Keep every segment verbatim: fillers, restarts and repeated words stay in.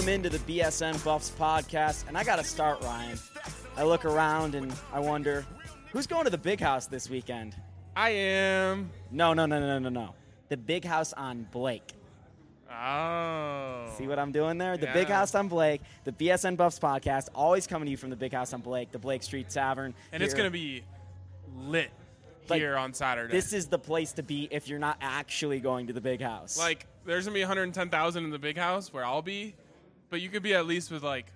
Welcome into the B S N Buffs podcast, and I got to start, Ryan. I look around and I wonder, who's going to the Big House this weekend? I am. No, no, no, no, no, no. The Big House on Blake. Oh. See what I'm doing there? The Yeah. Big House on Blake, the B S N Buffs podcast, always coming to you from the Big House on Blake, the Blake Street Tavern. And it's here. going to be lit Like, here on Saturday. This is the place to be if you're not actually going to the Big House. Like, there's going to be one hundred ten thousand in the Big House where I'll be, but you could be at least with, like,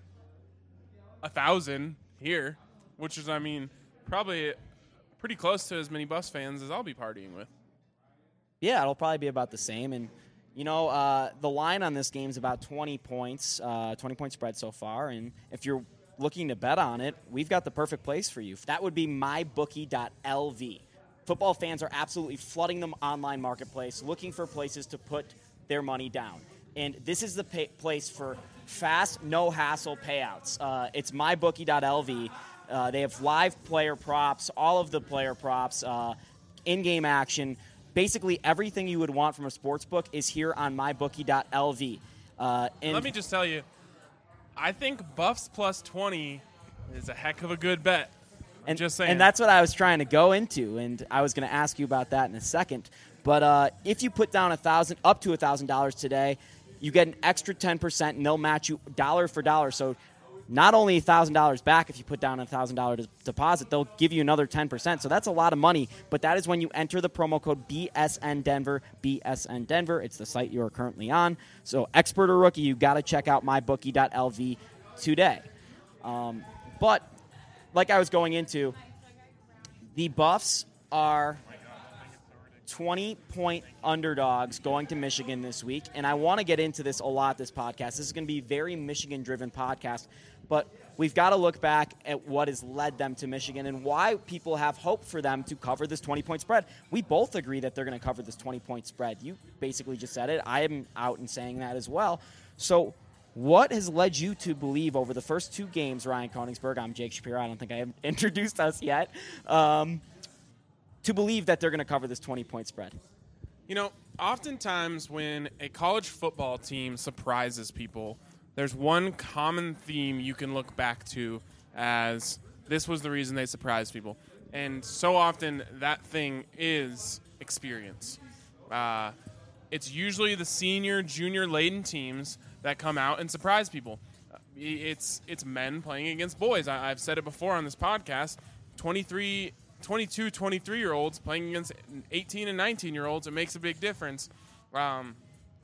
one thousand here, which is, I mean, probably pretty close to as many Buffs fans as I'll be partying with. Yeah, it'll probably be about the same. And, you know, uh, the line on this game is about twenty points, uh, twenty-point spread so far. And if you're looking to bet on it, we've got the perfect place for you. That would be my bookie dot L V. Football fans are absolutely flooding the online marketplace, looking for places to put their money down. And this is the pay- place for fast, no-hassle payouts. Uh, it's my bookie dot L V. Uh, they have live player props, all of the player props, uh, in-game action. Basically, everything you would want from a sports book is here on my bookie dot L V. Uh, and Let me just tell you, I think Buffs plus twenty is a heck of a good bet. I'm and, just saying. And that's what I was trying to go into, and I was going to ask you about that in a second. But uh, if you put down a thousand, up to one thousand dollars today, you get an extra ten percent, and they'll match you dollar for dollar. So not only one thousand dollars back if you put down a one thousand dollars deposit, they'll give you another ten percent. So that's a lot of money, but that is when you enter the promo code B S N Denver, B S N Denver. It's the site you are currently on. So expert or rookie, you got to check out my bookie dot L V today. Um, but like I was going into, the Buffs are twenty-point underdogs going to Michigan this week, and I want to get into this a lot this podcast. This is going to be a very Michigan-driven podcast, but we've got to look back at what has led them to Michigan and why people have hope for them to cover this twenty-point spread. We both agree that they're going to cover this twenty-point spread. You basically just said it. I am out and saying that as well. So what has led you to believe over the first two games, Ryan Koenigsberg? I'm Jake Shapiro. I don't think I have introduced us yet. Um, to believe that they're going to cover this twenty-point spread? You know, oftentimes when a college football team surprises people, there's one common theme you can look back to as this was the reason they surprised people. And so often that thing is experience. Uh, it's usually the senior, junior-laden teams that come out and surprise people. It's it's men playing against boys. I, I've said it before on this podcast, twenty-three twenty-two, twenty-three-year-olds playing against eighteen and nineteen-year-olds, it makes a big difference. Um,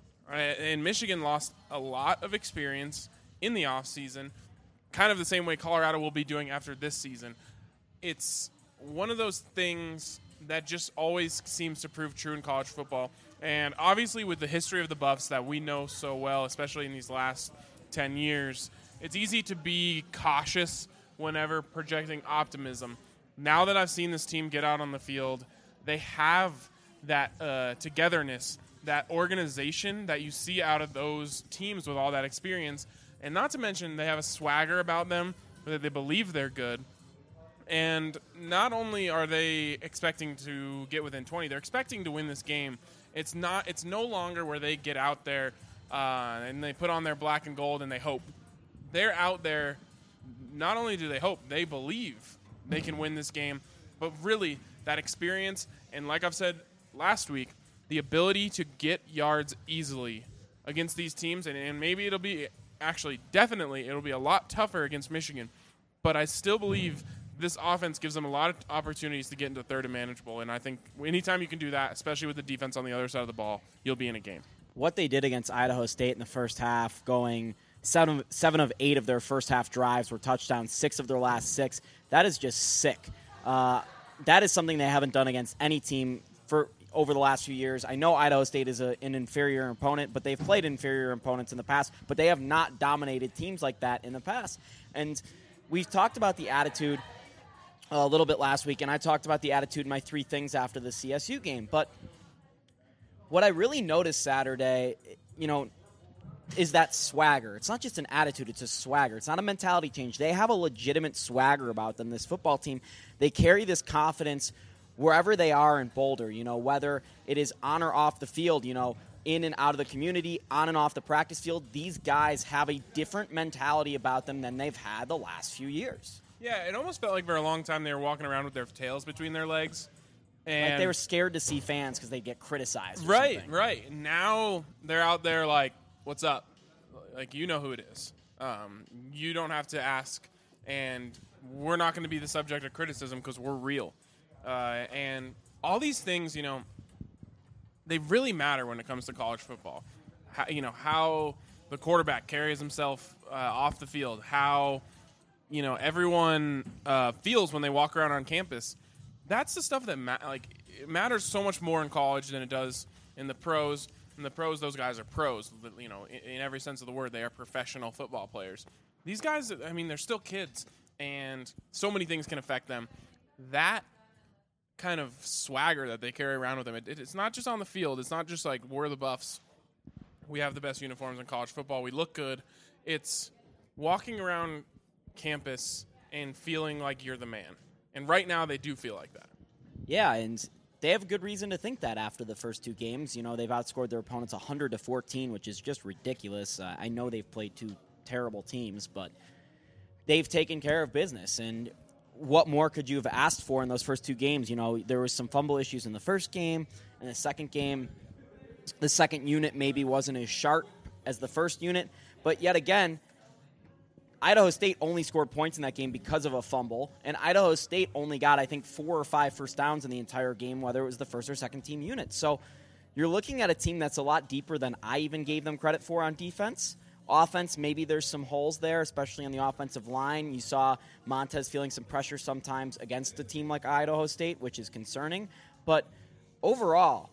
and Michigan lost a lot of experience in the offseason, kind of the same way Colorado will be doing after this season. It's one of those things that just always seems to prove true in college football. And obviously with the history of the Buffs that we know so well, especially in these last ten years, it's easy to be cautious whenever projecting optimism. Now that I've seen this team get out on the field, they have that uh, togetherness, that organization that you see out of those teams with all that experience. And not to mention they have a swagger about them, that they believe they're good. And not only are they expecting to get within twenty, they're expecting to win this game. It's not. It's no longer where they get out there uh, and they put on their black and gold and they hope. They're out there, not only do they hope, they believe they can win this game, but really that experience, and like I've said last week, the ability to get yards easily against these teams, and, and maybe it'll be, actually definitely, it'll be a lot tougher against Michigan, but I still believe this offense gives them a lot of opportunities to get into third and manageable, and I think anytime you can do that, especially with the defense on the other side of the ball, you'll be in a game. What they did against Idaho State in the first half, going seven, seven of eight of their first half drives were touchdowns, six of their last six, that is just sick. Uh, that is something they haven't done against any team for over the last few years. I know Idaho State is a, an inferior opponent, but they've played inferior opponents in the past, but they have not dominated teams like that in the past. And we've talked about the attitude a little bit last week, and I talked about the attitude in my three things after the C S U game. But what I really noticed Saturday, you know, is that swagger. It's not just an attitude, it's a swagger. It's not a mentality change. They have a legitimate swagger about them, this football team. They carry this confidence wherever they are in Boulder, you know, whether it is on or off the field. You know, in and out of the community, on and off the practice field, these guys have a different mentality about them than they've had the last few years. Yeah, it almost felt like for a long time they were walking around with their tails between their legs. And like they were scared to see fans because they'd get criticized. Or right, something. right. Now they're out there like, what's up? Like, you know who it is. Um, you don't have to ask, and we're not going to be the subject of criticism because we're real. Uh, and all these things, you know, they really matter when it comes to college football. How, you know, how the quarterback carries himself uh, off the field, how, you know, everyone uh, feels when they walk around on campus. That's the stuff that ma- like it matters so much more in college than it does in the pros. In the pros, those guys are pros. You know, in, in every sense of the word, they are professional football players. These guys, I mean, they're still kids, and so many things can affect them. That kind of swagger that they carry around with them, it, it, it's not just on the field. It's not just like we're the Buffs. We have the best uniforms in college football. We look good. It's walking around campus and feeling like you're the man. And right now they do feel like that. Yeah, and they have good reason to think that after the first two games. You know, they've outscored their opponents one hundred to fourteen, which is just ridiculous. Uh, I know they've played two terrible teams, but they've taken care of business. And what more could you have asked for in those first two games? You know, there was some fumble issues in the first game. In the second game, the second unit maybe wasn't as sharp as the first unit. But yet again, Idaho State only scored points in that game because of a fumble, and Idaho State only got, I think, four or five first downs in the entire game, whether it was the first or second team unit. So you're looking at a team that's a lot deeper than I even gave them credit for on defense. Offense, maybe there's some holes there, especially on the offensive line. You saw Montez feeling some pressure sometimes against a team like Idaho State, which is concerning. But overall,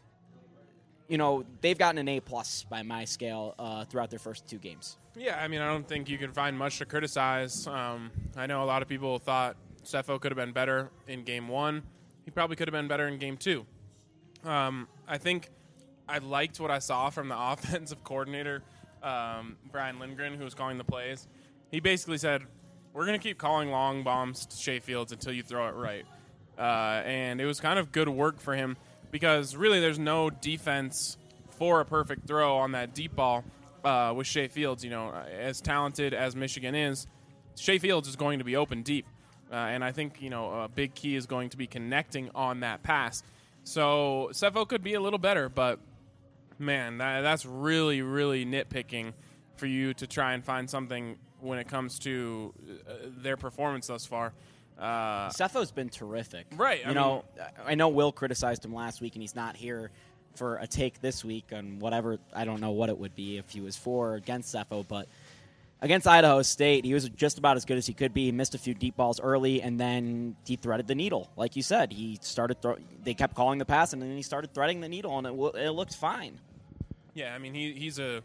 you know, they've gotten an A-plus by my scale uh, throughout their first two games. Yeah, I mean, I don't think you can find much to criticize. Um, I know a lot of people thought Sefo could have been better in game one. He probably could have been better in game two. Um, I think I liked what I saw from the offensive coordinator, um, Brian Lindgren, who was calling the plays. He basically said, we're going to keep calling long bombs to Shea Fields until you throw it right. Uh, and it was kind of good work for him because really there's no defense for a perfect throw on that deep ball. Uh, with Shea Fields, you know, as talented as Michigan is, Shea Fields is going to be open deep. Uh, and I think, you know, a big key is going to be connecting on that pass. So Sefo could be a little better, but, man, that, that's really, really nitpicking for you to try and find something when it comes to uh, their performance thus far. Uh, Sefo's been terrific. Right. You I know, mean, I know Will criticized him last week, and he's not here for a take this week on whatever, I don't know what it would be if he was for or against Sefo, but against Idaho State, he was just about as good as he could be. He missed a few deep balls early, and then he threaded the needle. Like you said, he started. Throw- they kept calling the pass, and then he started threading the needle, and it, w- it looked fine. Yeah, I mean, he, he's a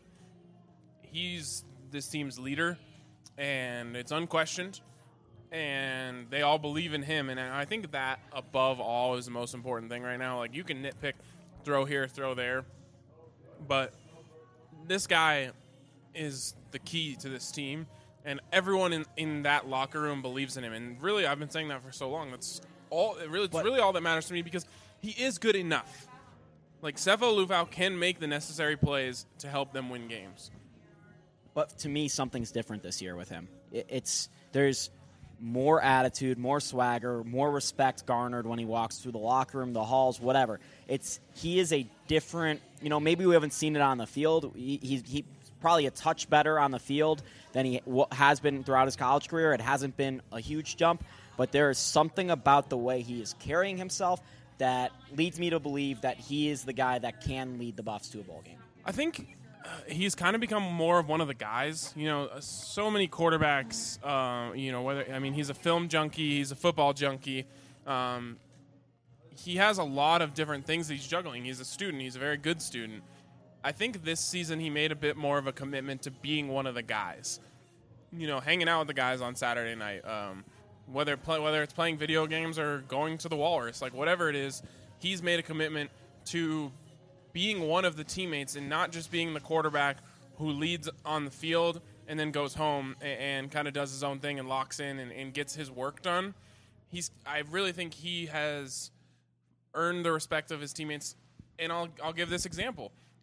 he's this team's leader, and it's unquestioned, and they all believe in him, and I think that above all is the most important thing right now. Like, you can nitpick, throw here, throw there, but this guy is the key to this team, and everyone in, in that locker room believes in him. And really, I've been saying that for so long. That's all. It really, it's But, really all that matters to me because he is good enough. Like, Sefo Liufau can make the necessary plays to help them win games. But to me, something's different this year with him. It, it's there's more attitude, more swagger, more respect garnered when he walks through the locker room, the halls, whatever. It's he is a different. You know, maybe we haven't seen it on the field. He, he, he's probably a touch better on the field than he w- has been throughout his college career. It hasn't been a huge jump, but there is something about the way he is carrying himself that leads me to believe that he is the guy that can lead the Buffs to a bowl game. I think uh, he's kind of become more of one of the guys. You know, uh, so many quarterbacks, uh, you know, whether, I mean, he's a film junkie, he's a football junkie. Um, he has a lot of different things that he's juggling. He's a student. He's a very good student. I think this season he made a bit more of a commitment to being one of the guys. You know, hanging out with the guys on Saturday night, um, whether play, whether it's playing video games or going to the Walrus, like whatever it is, he's made a commitment to being one of the teammates and not just being the quarterback who leads on the field and then goes home and, and kind of does his own thing and locks in and, and gets his work done. He's, I really think he has earned the respect of his teammates, and I'll I'll give this example.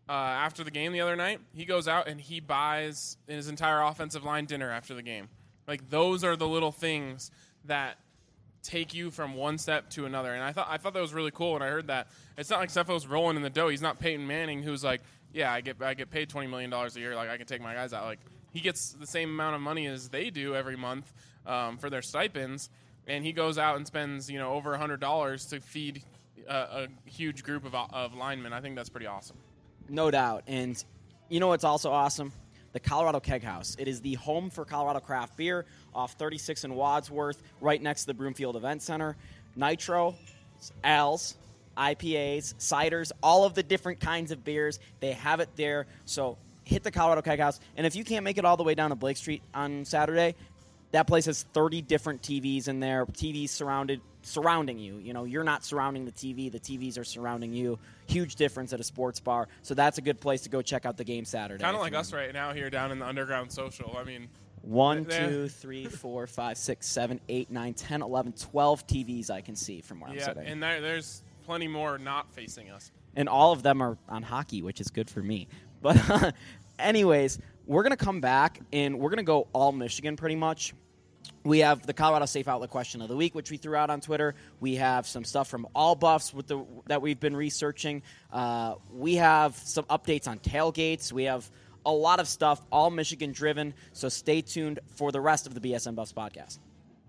uh, after the game the other night, he goes out and he buys his entire offensive line dinner after the game. Like, those are the little things that take you from one step to another. And I thought I thought that was really cool when I heard that. It's not like Stefo's rolling in the dough. He's not Peyton Manning, who's like, yeah, I get I get paid twenty million dollars a year. Like, I can take my guys out. Like, he gets the same amount of money as they do every month um, for their stipends. And he goes out and spends, you know, over one hundred dollars to feed a, a huge group of, of linemen. I think that's pretty awesome. No doubt. And you know what's also awesome? The Colorado Keg House. It is the home for Colorado craft beer off thirty-six and Wadsworth, right next to the Broomfield Event Center. Nitro, ales, I P As, ciders, all of the different kinds of beers. They have it there. So hit the Colorado Keg House. And if you can't make it all the way down to Blake Street on Saturday, that place has thirty different T Vs in there, T Vs surrounded surrounding you. You know, you're not surrounding the T V. The T Vs are surrounding you. Huge difference at a sports bar. So that's a good place to go check out the game Saturday. Kind of like us right now here down in the Underground Social. I mean, one, two, three, four, five, six, seven, eight, nine, ten, eleven, twelve T Vs I can see from where yeah, I'm sitting. And there, there's plenty more not facing us. And all of them are on hockey, which is good for me. But anyways, we're going to come back, and we're going to go all Michigan pretty much. We have the Colorado Safe Outlet question of the week, which we threw out on Twitter. We have some stuff from All Buffs with the, that we've been researching. Uh, we have some updates on tailgates. We have a lot of stuff, all Michigan driven. So stay tuned for the rest of the B S N Buffs podcast.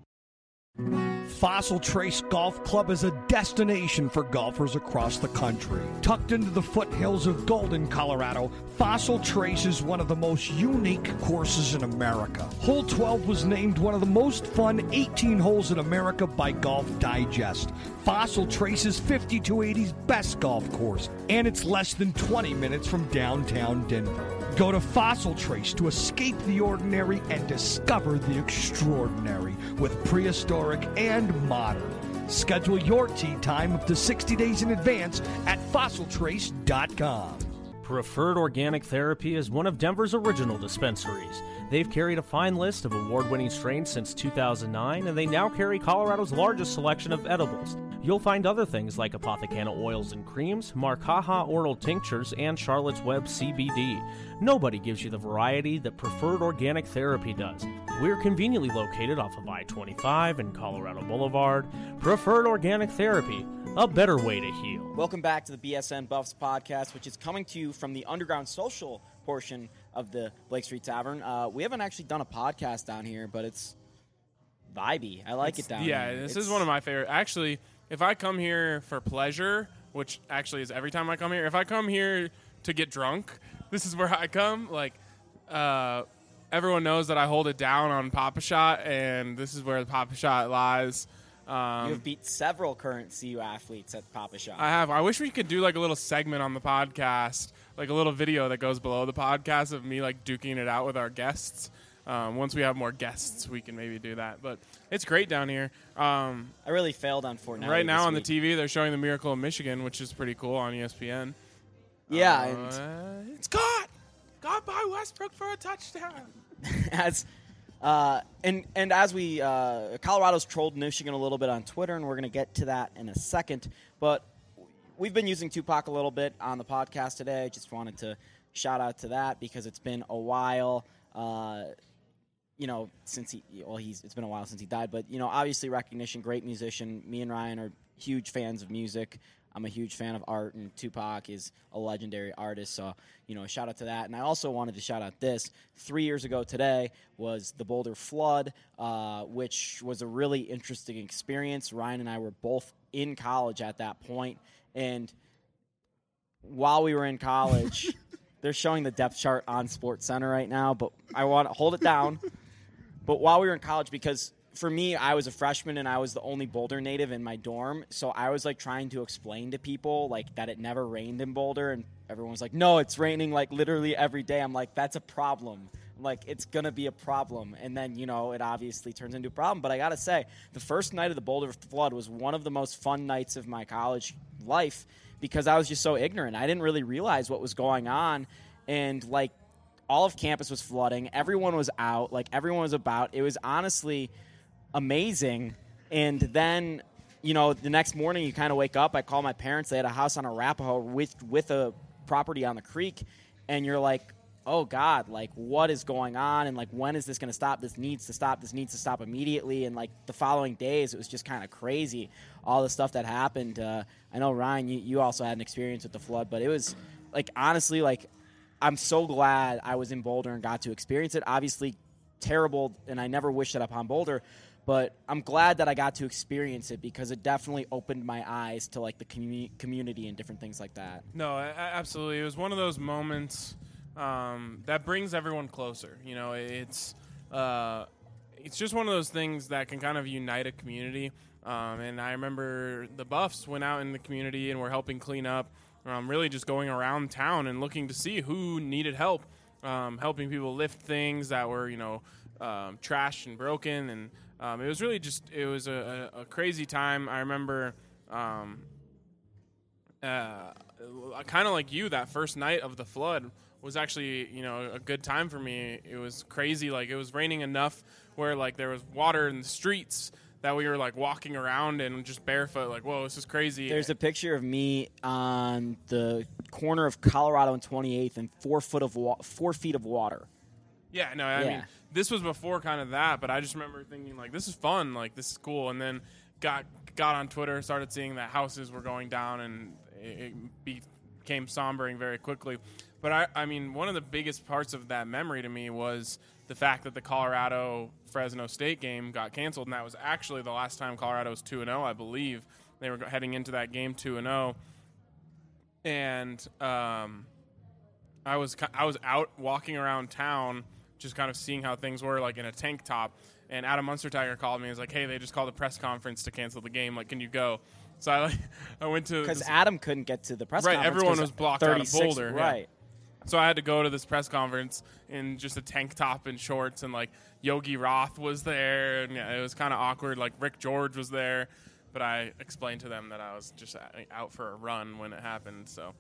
Fossil Trace Golf Club is a destination for golfers across the country. Tucked into the foothills of Golden, Colorado, Fossil Trace is one of the most unique courses in America. Hole twelve was named one of the most fun eighteen holes in America by Golf Digest. Fossil Trace is fifty-two eighty's best golf course, and it's less than twenty minutes from downtown Denver. Go to Fossil Trace to escape the ordinary and discover the extraordinary with prehistoric and modern. Schedule your tee time up to sixty days in advance at fossil trace dot com. Preferred Organic Therapy is one of Denver's original dispensaries. They've carried a fine list of award-winning strains since two thousand nine, and they now carry Colorado's largest selection of edibles. You'll find other things like Apothecana oils and creams, Marcaja oral tinctures, and Charlotte's Web C B D. Nobody gives you the variety that Preferred Organic Therapy does. We're conveniently located off of I twenty-five and Colorado Boulevard. Preferred Organic Therapy, a better way to heal. Welcome back to the B S N Buffs podcast, which is coming to you from the Underground Social portion of the Blake Street Tavern. Uh, we haven't actually done a podcast down here, but it's vibey. I like it's, it down yeah, here. Yeah, this it's, is one of my favorite. Actually, if I come here for pleasure, which actually is every time I come here, if I come here to get drunk, this is where I come. Like, uh, everyone knows that I hold it down on Papa Shot, and this is where the Papa Shot lies. Um, you have beat several current C U athletes at Papa Shot. I have. I wish we could do like a little segment on the podcast, like a little video that goes below the podcast of me like duking it out with our guests. Um, once we have more guests, we can maybe do that. But it's great down here. Um, I really failed on Fortnite. Right now on week. the T V, they're showing the Miracle of Michigan, which is pretty cool on E S P N. Yeah, uh, and it's caught, caught by Westbrook for a touchdown. as uh, and and as we uh, Colorado's trolled Michigan a little bit on Twitter, and we're going to get to that in a second. But we've been using Tupac a little bit on the podcast today. Just wanted to shout out to that because it's been a while. Uh, you know, since he, well, he's, it's been a while since he died, but, you know, obviously recognition, great musician. Me and Ryan are huge fans of music. I'm a huge fan of art, and Tupac is a legendary artist. So, you know, shout out to that. And I also wanted to shout out this. Three years ago today was the Boulder flood, uh, which was a really interesting experience. Ryan and I were both in college at that point. And while we were in college, they're showing the depth chart on SportsCenter right now, but I want to hold it down. But while we were in college, because for me, I was a freshman and I was the only Boulder native in my dorm, so I was like trying to explain to people like that it never rained in Boulder, and everyone was like, "No, it's raining like literally every day." I'm like, "That's a problem. I'm like, it's gonna be a problem." And then you know, it obviously turns into a problem. But I gotta say, the first night of the Boulder flood was one of the most fun nights of my college life because I was just so ignorant. I didn't really realize what was going on, and like. All of campus was flooding. Everyone was out. Like, everyone was about. It was honestly amazing. And then, you know, the next morning you kind of wake up. I call my parents. They had a house on Arapahoe with with a property on the creek, and you're like, oh God, like what is going on? And like, when is this going to stop? This needs to stop. This needs to stop immediately. And like the following days, it was just kind of crazy. All the stuff that happened. Uh, I know Ryan, you, you also had an experience with the flood, but it was like, honestly, like I'm so glad I was in Boulder and got to experience it. Obviously terrible. And I never wished that upon Boulder, but I'm glad that I got to experience it because it definitely opened my eyes to like the commu- community and different things like that. No, absolutely. It was one of those moments Um, that brings everyone closer. You know, it's uh, it's just one of those things that can kind of unite a community. Um, and I remember the Buffs went out in the community and were helping clean up, um, really just going around town and looking to see who needed help, um, helping people lift things that were, you know, um, trashed and broken. And um, it was really just, it was a, a, a crazy time. I remember um, uh, kind of like you, that first night of the flood was actually, you know, a good time for me. It was crazy. Like, it was raining enough where, like, there was water in the streets that we were, like, walking around and just barefoot, like, whoa, this is crazy. There's a picture of me on the corner of Colorado and twenty-eighth and four foot of wa- four feet of water. Yeah, no, I yeah. mean, this was before kind of that, but I just remember thinking, like, this is fun, like, this is cool. And then got got on Twitter, started seeing that houses were going down, and it, it became sombering very quickly. But, I, I mean, one of the biggest parts of that memory to me was the fact that the Colorado-Fresno State game got canceled, and that was actually the last time Colorado was two and oh, I believe. They were heading into that game two and oh. And um, I was I was out walking around town just kind of seeing how things were, like, in a tank top. And Adam Munstertiger called me and was like, hey, they just called a press conference to cancel the game. Like, can you go? So I, like, I went to – Because Adam couldn't get to the press right, conference. Right, everyone was blocked out of Boulder. Right. Yeah. So I had to go to this press conference in just a tank top and shorts, and, like, Yogi Roth was there, and yeah, it was kind of awkward. Like, Rick George was there, but I explained to them that I was just out for a run when it happened. So,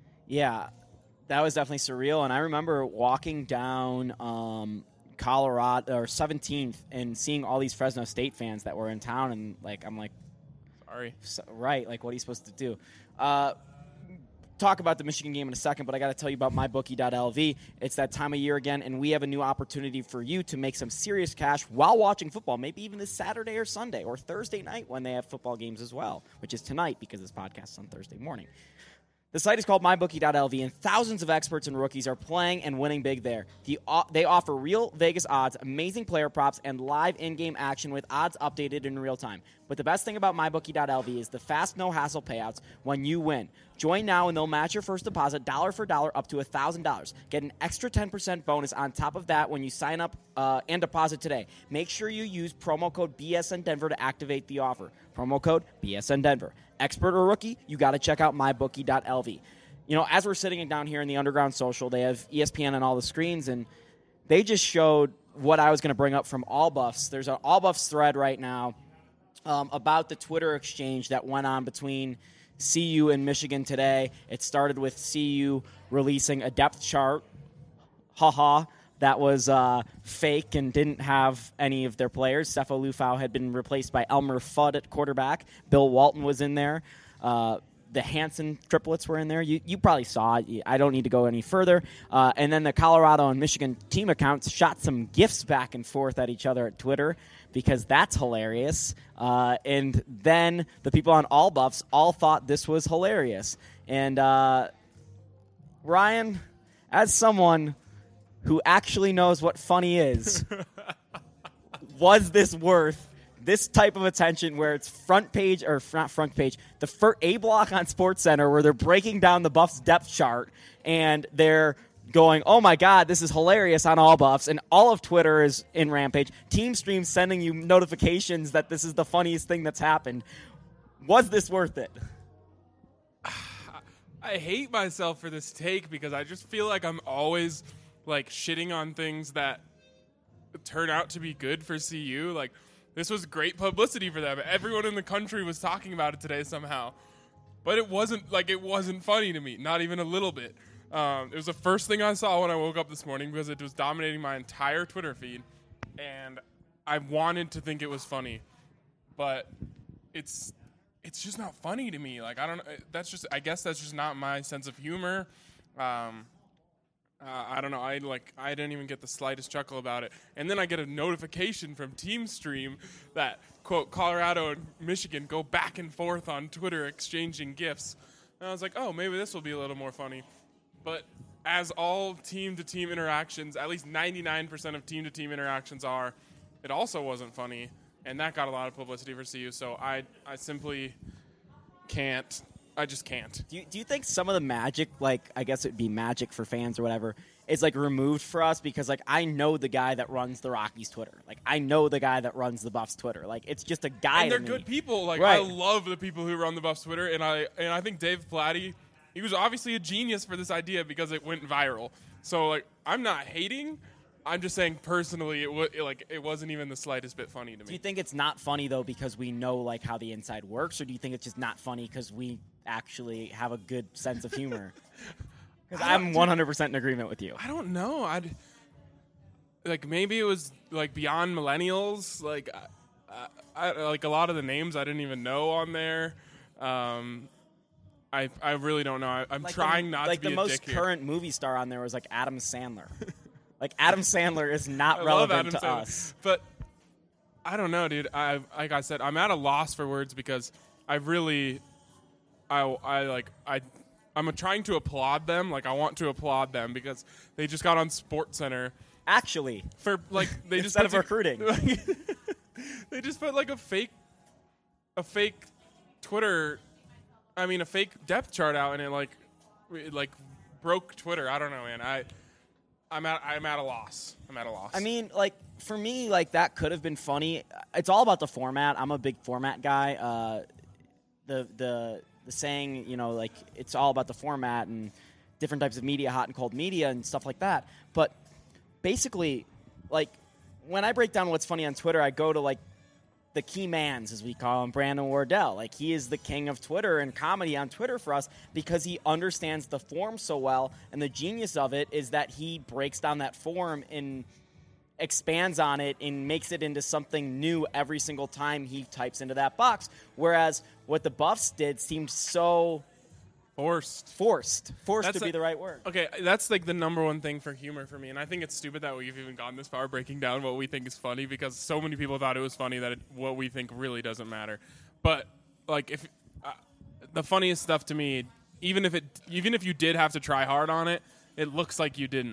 yeah, that was definitely surreal. And I remember walking down um, Colorado or seventeenth and seeing all these Fresno State fans that were in town, and like I'm like, sorry, so, right? Like, what are you supposed to do? Uh, talk about the Michigan game in a second, but I got to tell you about my bookie dot L V. It's that time of year again, and we have a new opportunity for you to make some serious cash while watching football, maybe even this Saturday or Sunday or Thursday night when they have football games as well, which is tonight because this podcast is on Thursday morning. The site is called my bookie dot L V, and thousands of experts and rookies are playing and winning big there. The, uh, they offer real Vegas odds, amazing player props, and live in-game action with odds updated in real time. But the best thing about my bookie dot L V is the fast, no-hassle payouts when you win. Join now, and they'll match your first deposit dollar for dollar up to one thousand dollars. Get an extra ten percent bonus on top of that when you sign up uh, and deposit today. Make sure you use promo code B S N Denver to activate the offer. Promo code B S N Denver. Expert or rookie, you got to check out my bookie dot L V. You know, as we're sitting down here in the Underground Social, they have E S P N on all the screens, and they just showed what I was going to bring up from All Buffs. There's an All Buffs thread right now um, about the Twitter exchange that went on between C U and Michigan today. It started with C U releasing a depth chart. Ha-ha. That was uh, fake and didn't have any of their players. Sefo Lufau had been replaced by Elmer Fudd at quarterback. Bill Walton was in there. Uh, the Hansen triplets were in there. You, you probably saw it. I don't need to go any further. Uh, and then the Colorado and Michigan team accounts shot some GIFs back and forth at each other at Twitter because that's hilarious. Uh, and then the people on All Buffs all thought this was hilarious. And uh, Ryan, as someone who actually knows what funny is, was this worth this type of attention where it's front page, or not front page, the fir- A block on SportsCenter where they're breaking down the Buffs depth chart and they're going, oh my God, this is hilarious on All Buffs, and all of Twitter is in Rampage. Team Stream sending you notifications that this is the funniest thing that's happened. Was this worth it? I hate myself for this take because I just feel like I'm always like shitting on things that turn out to be good for C U. Like, this was great publicity for them. Everyone in the country was talking about it today somehow. But it wasn't like it wasn't funny to me, not even a little bit. Um, it was the first thing I saw when I woke up this morning because it was dominating my entire Twitter feed, and I wanted to think it was funny, but it's it's just not funny to me. Like, I don't know. That's just I guess that's just not my sense of humor. Um, uh, I don't know. I like. I didn't even get the slightest chuckle about it. And then I get a notification from TeamStream that quote Colorado and Michigan go back and forth on Twitter exchanging gifs. And I was like, oh, maybe this will be a little more funny. But as all team-to-team interactions, at least ninety-nine percent of team-to-team interactions are, it also wasn't funny, and that got a lot of publicity for C U. So I, I simply can't. I just can't. Do you, do you think some of the magic, like I guess it would be magic for fans or whatever, is like removed for us because like I know the guy that runs the Rockies Twitter, like I know the guy that runs the Buffs Twitter, like it's just a guy. And they're to good me. people. Like Right. I love the people who run the Buffs Twitter, and I and I think Dave Platty, he was obviously a genius for this idea because it went viral. So like I'm not hating. I'm just saying personally, it w- like it wasn't even the slightest bit funny to me. Do you think it's not funny though because we know like how the inside works, or do you think it's just not funny because we actually have a good sense of humor? Because I'm one hundred percent in agreement with you. I don't know. I'd like maybe it was like beyond millennials. Like I, I, like a lot of the names I didn't even know on there. Um, I I really don't know. I, I'm Like trying the, not like to be the a most dick current movie star on there was like Adam Sandler. Like Adam Sandler is not here. I love relevant Adam to Sandler. us. But I don't know, dude. I like I said, I'm at a loss for words because I really, I I like I. I'm trying to applaud them. Like I want to applaud them because they just got on SportsCenter Actually, for like they just instead of put recruiting. they just put like a fake, a fake Twitter, I mean a fake depth chart out, and it like, it like broke Twitter. I don't know, man. I, I'm at I'm at a loss. I'm at a loss. I mean, like for me, like that could have been funny. It's all about the format. I'm a big format guy. Uh, the the the saying, you know, like it's all about the format and different types of media, hot and cold media and stuff like that. But basically, like when I break down what's funny on Twitter, I go to like the key mans, as we call him, Brandon Wardell. Like he is the king of Twitter and comedy on Twitter for us because he understands the form so well. And the genius of it is that he breaks down that form and expands on it and makes it into something new every single time he types into that box. Whereas what the Buffs did seemed so forced. forced. Forced That's to be a- the right word. Okay, that's like the number one thing for humor for me, and I think it's stupid that we've even gone this far breaking down what we think is funny because so many people thought it was funny that it, what we think really doesn't matter. But like, if uh, the funniest stuff to me, even if it, even if you did have to try hard on it, it looks like you didn't,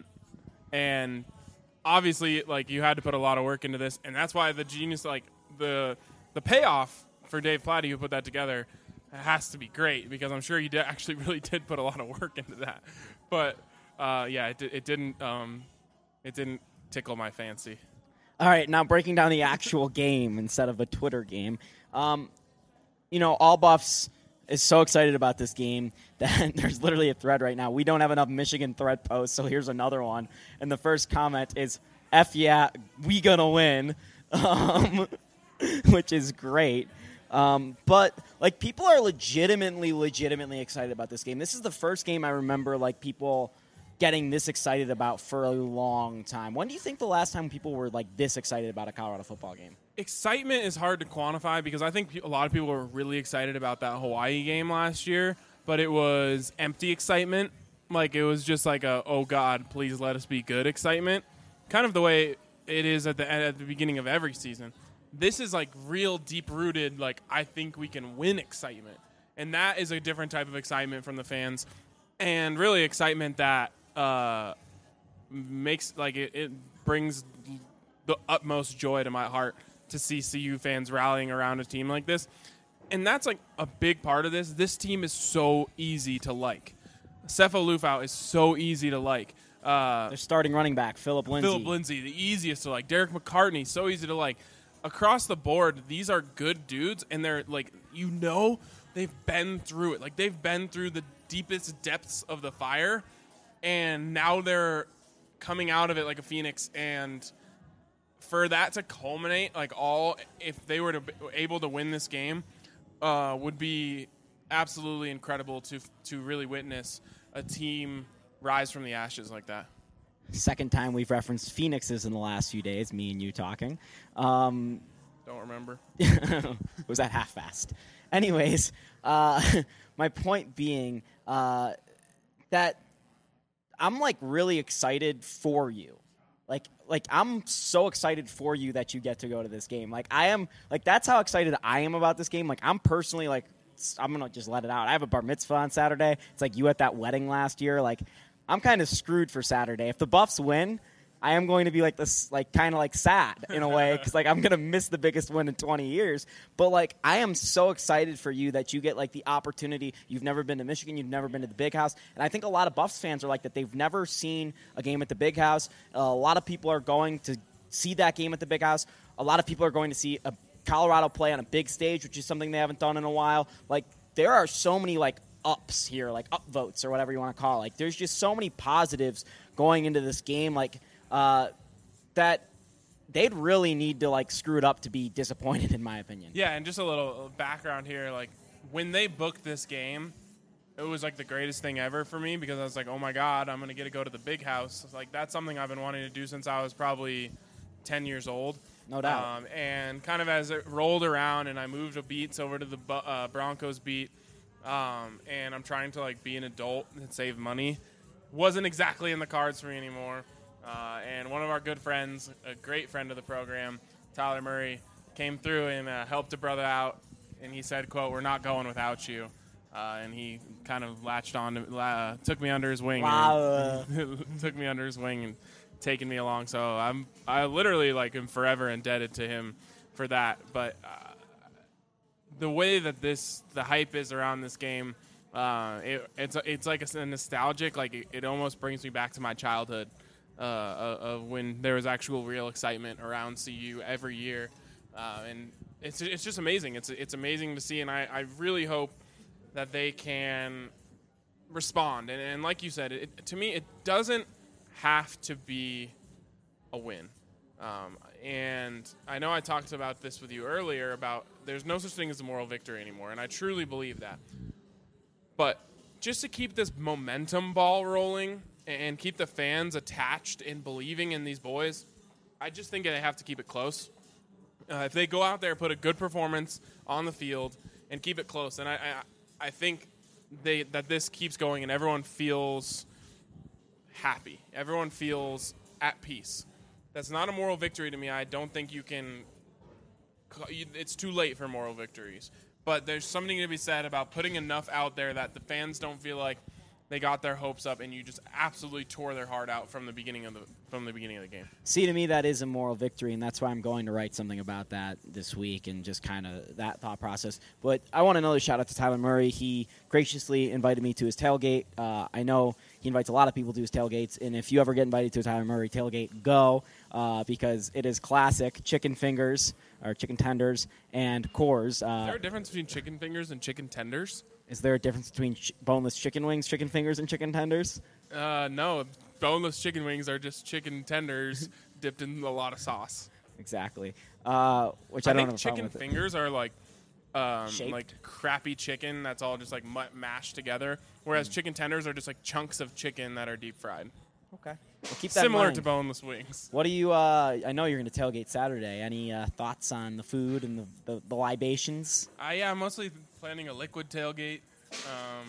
and obviously, like you had to put a lot of work into this, and that's why the genius, like the the payoff for Dave Platty who put that together. It has to be great because I'm sure he did actually really did put a lot of work into that. But uh, yeah, it, it didn't um, it didn't tickle my fancy. All right, now breaking down the actual game instead of a Twitter game. Um, you know, All Buffs is so excited about this game that there's literally a thread right now. We don't have enough Michigan thread posts, so here's another one. And the first comment is, F yeah, we gonna win, um, which is great. Um, but, like, people are legitimately, legitimately excited about this game. This is the first game I remember, like, people getting this excited about for a long time. When do you think the last time people were, like, this excited about a Colorado football game? Excitement is hard to quantify because I think a lot of people were really excited about that Hawaii game last year, but it was empty excitement. Like, it was just like a, oh, God, please let us be good excitement. Kind of the way it is at the at the beginning of every season. This is like real deep-rooted, like, I think we can win excitement. And that is a different type of excitement from the fans. And really excitement that uh, makes, like, it, it brings the utmost joy to my heart to see C U fans rallying around a team like this. And that's, like, a big part of this. This team is so easy to like. Sefo Lufau is so easy to like. Uh, Their starting running back, Philip Lindsay. Philip Lindsay, the easiest to like. Derek McCartney, so easy to like. Across the board, these are good dudes, and they're like, you know, they've been through it. Like, they've been through the deepest depths of the fire, and now they're coming out of it like a phoenix. And for that to culminate, like, all, if they were to be able to win this game, uh, would be absolutely incredible to to really witness a team rise from the ashes like that. Second time we've referenced Phoenixes in the last few days, me and you talking. Um, Don't remember. was that half-fast? Anyways, uh, my point being uh, that I'm like really excited for you. Like, like I'm so excited for you that you get to go to this game. Like, I am, like, that's how excited I am about this game. Like, I'm personally, like, I'm going to just let it out. I have a bar mitzvah on Saturday. It's like you at that wedding last year. Like, I'm kind of screwed for Saturday. If the Buffs win, I am going to be like this, like kind of like sad in a way because like I'm going to miss the biggest win in twenty years. But like I am so excited for you that you get like the opportunity. You've never been to Michigan. You've never been to the Big House. And I think a lot of Buffs fans are like that. They've never seen a game at the Big House. Uh, a lot of people are going to see that game at the Big House. A lot of people are going to see a Colorado play on a big stage, which is something they haven't done in a while. Like there are so many like ups here, like up votes or whatever you want to call it. Like there's just so many positives going into this game. Like Uh, that they'd really need to like screw it up to be disappointed, in my opinion. Yeah, and just a little background here, like when they booked this game, it was like the greatest thing ever for me because I was like, oh my god, I'm gonna get to go to the Big House. Like that's something I've been wanting to do since I was probably ten years old. No doubt. Um, and kind of as it rolled around, and I moved a beats over to the uh, Broncos beat, um, and I'm trying to like be an adult and save money, wasn't exactly in the cards for me anymore. Uh, and one of our good friends, a great friend of the program, Tyler Murray, came through and uh, helped a brother out. And he said, quote, "We're not going without you." Uh, and he kind of latched on, to, uh, took me under his wing. Wow. And took me under his wing and taken me along. So I'm, I literally like am forever indebted to him for that. But uh, the way that this, the hype is around this game, uh, it, it's it's like a, a nostalgic. Like it, it almost brings me back to my childhood. Uh, of when there was actual real excitement around C U every year, uh, and it's it's just amazing. It's it's amazing to see, and I, I really hope that they can respond. And, and like you said, it, to me, it doesn't have to be a win. Um, and I know I talked about this with you earlier about there's no such thing as a moral victory anymore, and I truly believe that. But just to keep this momentum ball rolling and keep the fans attached and believing in these boys, I just think they have to keep it close. Uh, if they go out there, put a good performance on the field, and keep it close, and I, I, I think they that this keeps going, and everyone feels happy. Everyone feels at peace. That's not a moral victory to me. I don't think you can. It's too late for moral victories, but there's something to be said about putting enough out there that the fans don't feel like they got their hopes up, and you just absolutely tore their heart out from the beginning of the from the beginning of the game. See, to me, that is a moral victory, and that's why I'm going to write something about that this week and just kind of that thought process. But I want another shout out to Tyler Murray. He graciously invited me to his tailgate. Uh, I know he invites a lot of people to his tailgates, and if you ever get invited to a Tyler Murray tailgate, go uh, because it is classic chicken fingers or chicken tenders and Coors. Uh, is there a difference between chicken fingers and chicken tenders? Is there a difference between ch- boneless chicken wings, chicken fingers, and chicken tenders? Uh, no, boneless chicken wings are just chicken tenders dipped in a lot of sauce. Exactly. Uh, which I, I don't think have a problem chicken with it. fingers are like um, Shaped? like crappy chicken that's all just like mu- mashed together, whereas mm. chicken tenders are just like chunks of chicken that are deep fried. Okay. Well, keep that Similar in mind. to boneless wings. What do you? Uh, I know you're going to tailgate Saturday. Any uh, thoughts on the food and the, the, the libations? Uh, yeah, I'm mostly planning a liquid tailgate. Um,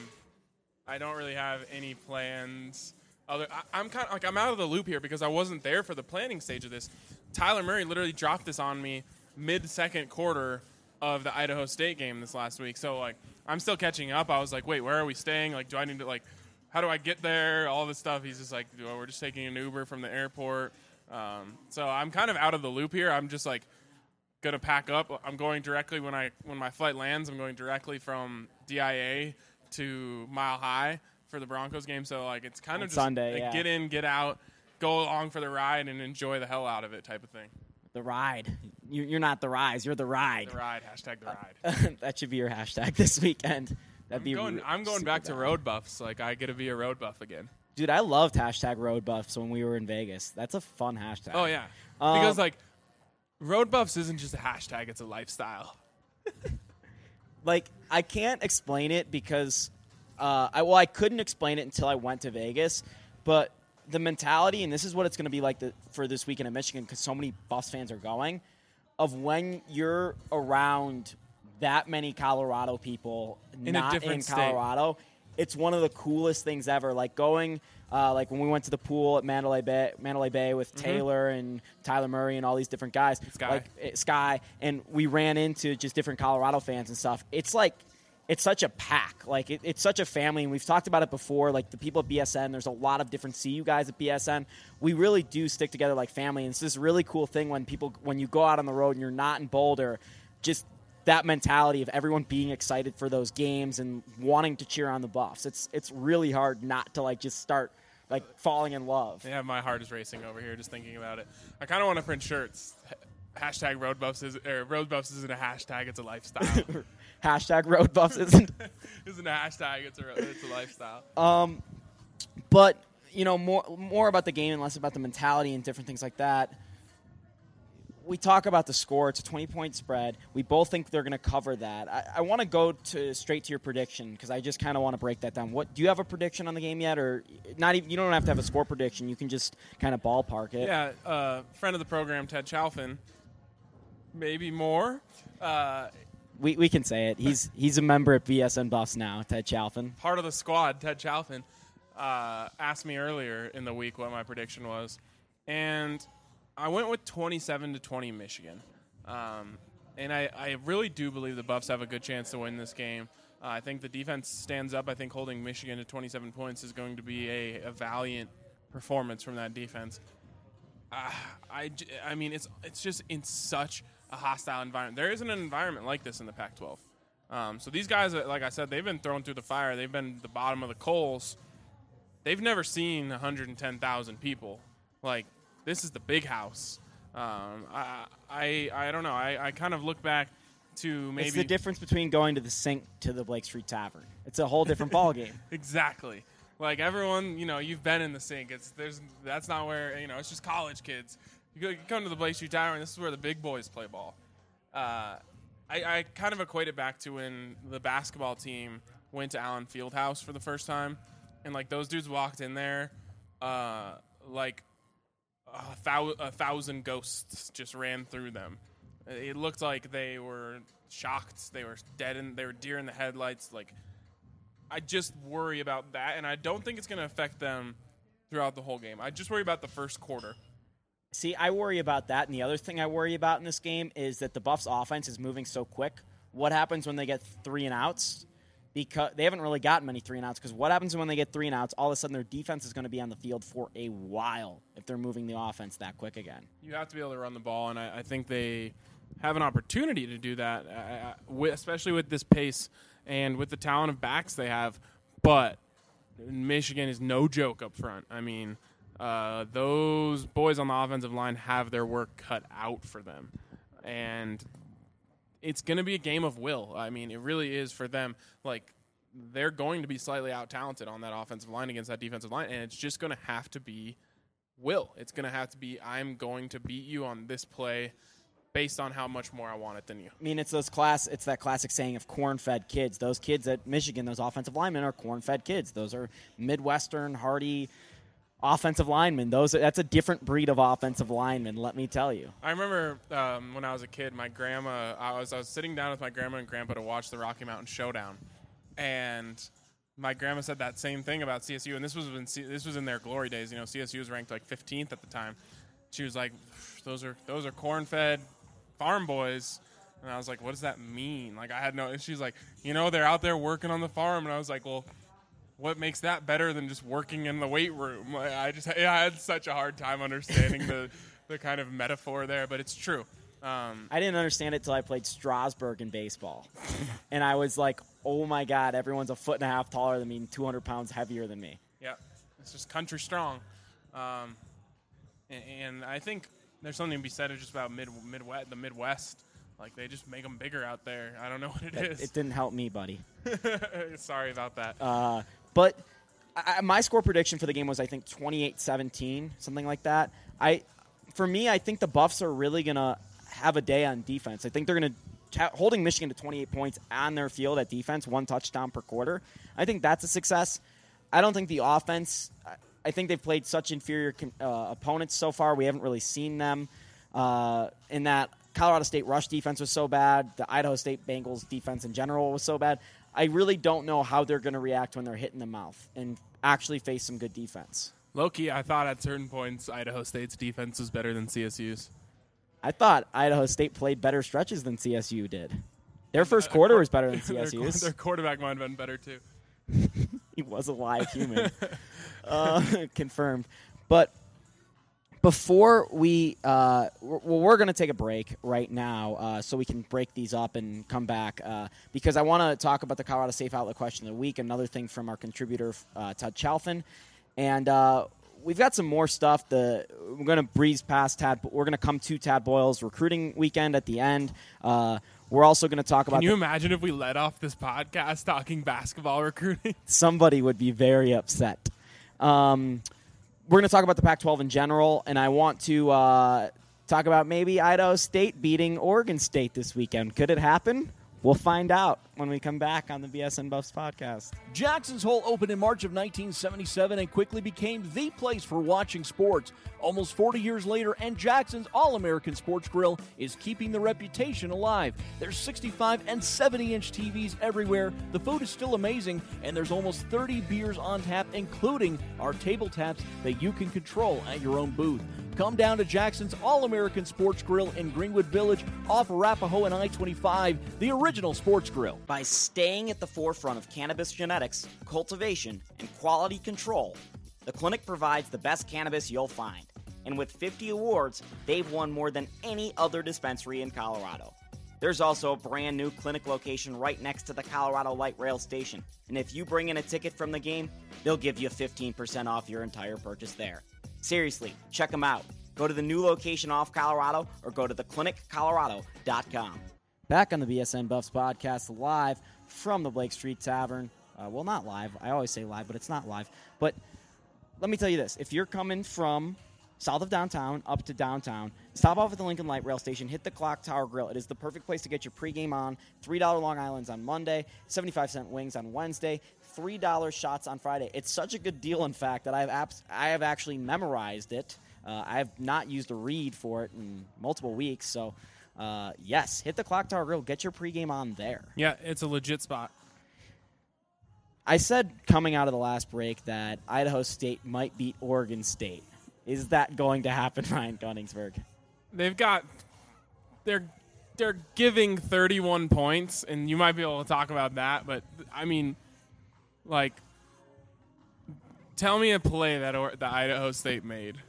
I don't really have any plans. Other, I, I'm kind of like I'm out of the loop here because I wasn't there for the planning stage of this. Tyler Murray literally dropped this on me mid-second quarter of the Idaho State game this last week. So like I'm still catching up. I was like, wait, where are we staying? Like, do I need to like, how do I get there? All this stuff. He's just like, oh, we're just taking an Uber from the airport. Um, so I'm kind of out of the loop here. I'm just like gonna pack up. I'm going directly when I when my flight lands. I'm going directly from D I A to Mile High for the Broncos game. So like it's kind On of just Sunday, like, yeah. get in, get out, go along for the ride, and enjoy the hell out of it type of thing. The ride. You, you're not the rise. You're the ride. The ride. Hashtag the ride. That should be your hashtag this weekend. That'd I'm be. going, re- I'm going back to bad. road buffs. Like I get to be a road buff again. Dude, I loved hashtag road buffs when we were in Vegas. That's a fun hashtag. Oh yeah, Um, because like road buffs isn't just a hashtag; it's a lifestyle. Like I can't explain it because, uh, I well I couldn't explain it until I went to Vegas, but the mentality, and this is what it's going to be like the, for this weekend in Michigan because so many Buffs fans are going, of when you're around that many Colorado people In a not different in state. Colorado, it's one of the coolest things ever. Like going, uh, like when we went to the pool at Mandalay Bay, Mandalay Bay with mm-hmm. Taylor and Tyler Murray and all these different guys, Sky. like Sky, and we ran into just different Colorado fans and stuff. It's like, it's such a pack. Like it, it's such a family, and we've talked about it before. Like the people at B S N, there's a lot of different C U guys at B S N. We really do stick together like family, and it's this really cool thing when people, when you go out on the road and you're not in Boulder, just that mentality of everyone being excited for those games and wanting to cheer on the Buffs. It's it's really hard not to like just start like falling in love. Yeah, my heart is racing over here just thinking about it. I kind of want to print shirts. Hashtag Road Buffs is or Road Buffs isn't a hashtag; it's a lifestyle. Hashtag Road Buffs isn't isn't a hashtag; it's a it's a lifestyle. Um, but you know more more about the game and less about the mentality and different things like that. We talk about the score. It's a twenty-point spread. We both think they're going to cover that. I, I want to go to straight to your prediction because I just kind of want to break that down. What do you have a prediction on the game yet, or not? Even you don't have to have a score prediction. You can just kind of ballpark it. Yeah, uh, friend of the program, Ted Chalfin. Maybe more. Uh, we we can say it. He's he's a member at B S N Buffs now. Ted Chalfin, part of the squad. Ted Chalfin uh, asked me earlier in the week what my prediction was, and I went with twenty-seven to twenty Michigan. Um, and I, I really do believe the Buffs have a good chance to win this game. Uh, I think the defense stands up. I think holding Michigan to twenty-seven points is going to be a, a valiant performance from that defense. Uh, I, I mean, it's it's just in such a hostile environment. There isn't an environment like this in the Pac twelve. Um, so these guys, like I said, they've been thrown through the fire. They've been the bottom of the coals. They've never seen one hundred ten thousand people. Like, this is the big house. Um, I, I I don't know. I, I kind of look back to maybe... It's the difference between going to the Sink to the Blake Street Tavern. It's a whole different ballgame. Exactly. Like, everyone, you know, you've been in the Sink. It's there's That's not where, you know, it's just college kids. You, go, you come to the Blake Street Tavern, this is where the big boys play ball. Uh, I, I kind of equate it back to when the basketball team went to Allen Fieldhouse for the first time. And, like, those dudes walked in there, uh, like... A, thou- a thousand ghosts just ran through them. It looked like they were shocked. They were dead, and they were deer in the headlights. Like, I just worry about that, and I don't think it's going to affect them throughout the whole game. I just worry about the first quarter. See, I worry about that, and the other thing I worry about in this game is that the Buffs' offense is moving so quick. What happens when they get three and outs? Because they haven't really gotten many three and outs. Because what happens when they get three and outs? All of a sudden, their defense is going to be on the field for a while if they're moving the offense that quick again. You have to be able to run the ball, and I, I think they have an opportunity to do that, uh, with, especially with this pace and with the talent of backs they have. But Michigan is no joke up front. I mean, uh, those boys on the offensive line have their work cut out for them, and it's going to be a game of will. I mean, it really is for them. Like, they're going to be slightly out-talented on that offensive line against that defensive line, and it's just going to have to be will. It's going to have to be, I'm going to beat you on this play based on how much more I want it than you. I mean, it's those class. It's that classic saying of corn-fed kids. Those kids at Michigan, those offensive linemen are corn-fed kids. Those are Midwestern, hardy offensive linemen. Those that's a different breed of offensive linemen, let me tell you. I remember um, when I was a kid, my grandma, I was I was sitting down with my grandma and grandpa to watch the Rocky Mountain Showdown, and my grandma said that same thing about C S U, and this was when C- this was in their glory days. You know, C S U was ranked like fifteenth at the time. She was like, "Those are those are corn-fed farm boys," and I was like, "What does that mean?" Like, I had no. And she's like, "You know, they're out there working on the farm," and I was like, "Well, what makes that better than just working in the weight room?" I just I had such a hard time understanding the, the kind of metaphor there, but it's true. Um, I didn't understand it till I played Strasburg in baseball. And I was like, oh, my God, everyone's a foot and a half taller than me and two hundred pounds heavier than me. Yeah, it's just country strong. Um, and, and I think there's something to be said just about mid, Midwest, the Midwest. Like, they just make them bigger out there. I don't know what it it, is. It didn't help me, buddy. Sorry about that. Uh, but I, my score prediction for the game was, I think, twenty-eight seventeen, something like that. I, For me, I think the Buffs are really going to have a day on defense. I think they're going to – holding Michigan to twenty-eight points on their field at defense, one touchdown per quarter, I think that's a success. I don't think the offense – I think they've played such inferior uh, opponents so far. We haven't really seen them uh, in that – Colorado State rush defense was so bad. The Idaho State Bengals defense in general was so bad. I really don't know how they're going to react when they're hit in the mouth and actually face some good defense. Low-key, I thought at certain points Idaho State's defense was better than C S U's. I thought Idaho State played better stretches than C S U did. Their first quarter was better than C S U's. Their quarterback might have been better, too. He was a live human. uh, confirmed. But before we, uh, well, we're going to take a break right now uh, so we can break these up and come back uh, because I want to talk about the Colorado Safe Outlet Question of the Week, another thing from our contributor, uh, Todd Chalfin. And uh, we've got some more stuff. The, we're going to breeze past Tad. We're going to come to Tad Boyle's recruiting weekend at the end. Uh, we're also going to talk about. Can you the, imagine if we led off this podcast talking basketball recruiting? Somebody would be very upset. Um, we're going to talk about the Pac twelve in general, and I want to uh, talk about maybe Idaho State beating Oregon State this weekend. Could it happen? We'll find out when we come back on the B S N Buffs podcast. Jackson's Hole opened in March of nineteen seventy-seven and quickly became the place for watching sports. Almost forty years later, and Jackson's All-American Sports Grill is keeping the reputation alive. There's sixty-five and seventy-inch T Vs everywhere, the food is still amazing, and there's almost thirty beers on tap, including our table taps that you can control at your own booth. Come down to Jackson's All-American Sports Grill in Greenwood Village off Arapahoe and I twenty-five, the original sports grill. By staying at the forefront of cannabis genetics, cultivation, and quality control, the clinic provides the best cannabis you'll find. And with fifty awards, they've won more than any other dispensary in Colorado. There's also a brand new clinic location right next to the Colorado Light Rail Station. And if you bring in a ticket from the game, they'll give you fifteen percent off your entire purchase there. Seriously, check them out. Go to the new location off Colorado or go to the clinic colorado dot com. Back on the B S N Buffs podcast, live from the Blake Street Tavern. Uh, well, not live. I always say live, but it's not live. But let me tell you this. If you're coming from south of downtown up to downtown, stop off at the Lincoln Light Rail Station, hit the Clock Tower Grill. It is the perfect place to get your pregame on. three dollars Long Islands on Monday, seventy-five cent wings on Wednesday, three dollars shots on Friday. It's such a good deal, in fact, that I have, abs- I have actually memorized it. Uh, I have not used a read for it in multiple weeks, so... Uh, yes, hit the Clock Tower Grill. Get your pregame on there. Yeah, it's a legit spot. I said coming out of the last break that Idaho State might beat Oregon State. Is that going to happen, Ryan Gunningsberg? They've got they're they're giving thirty-one points, and you might be able to talk about that. But I mean, like, tell me a play that or, that Idaho State made.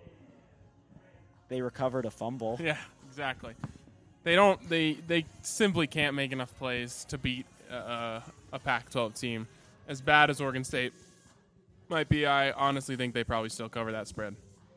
They recovered a fumble. Yeah, exactly. They don't. They they simply can't make enough plays to beat uh, a Pac twelve team. As bad as Oregon State might be, I honestly think they probably still cover that spread.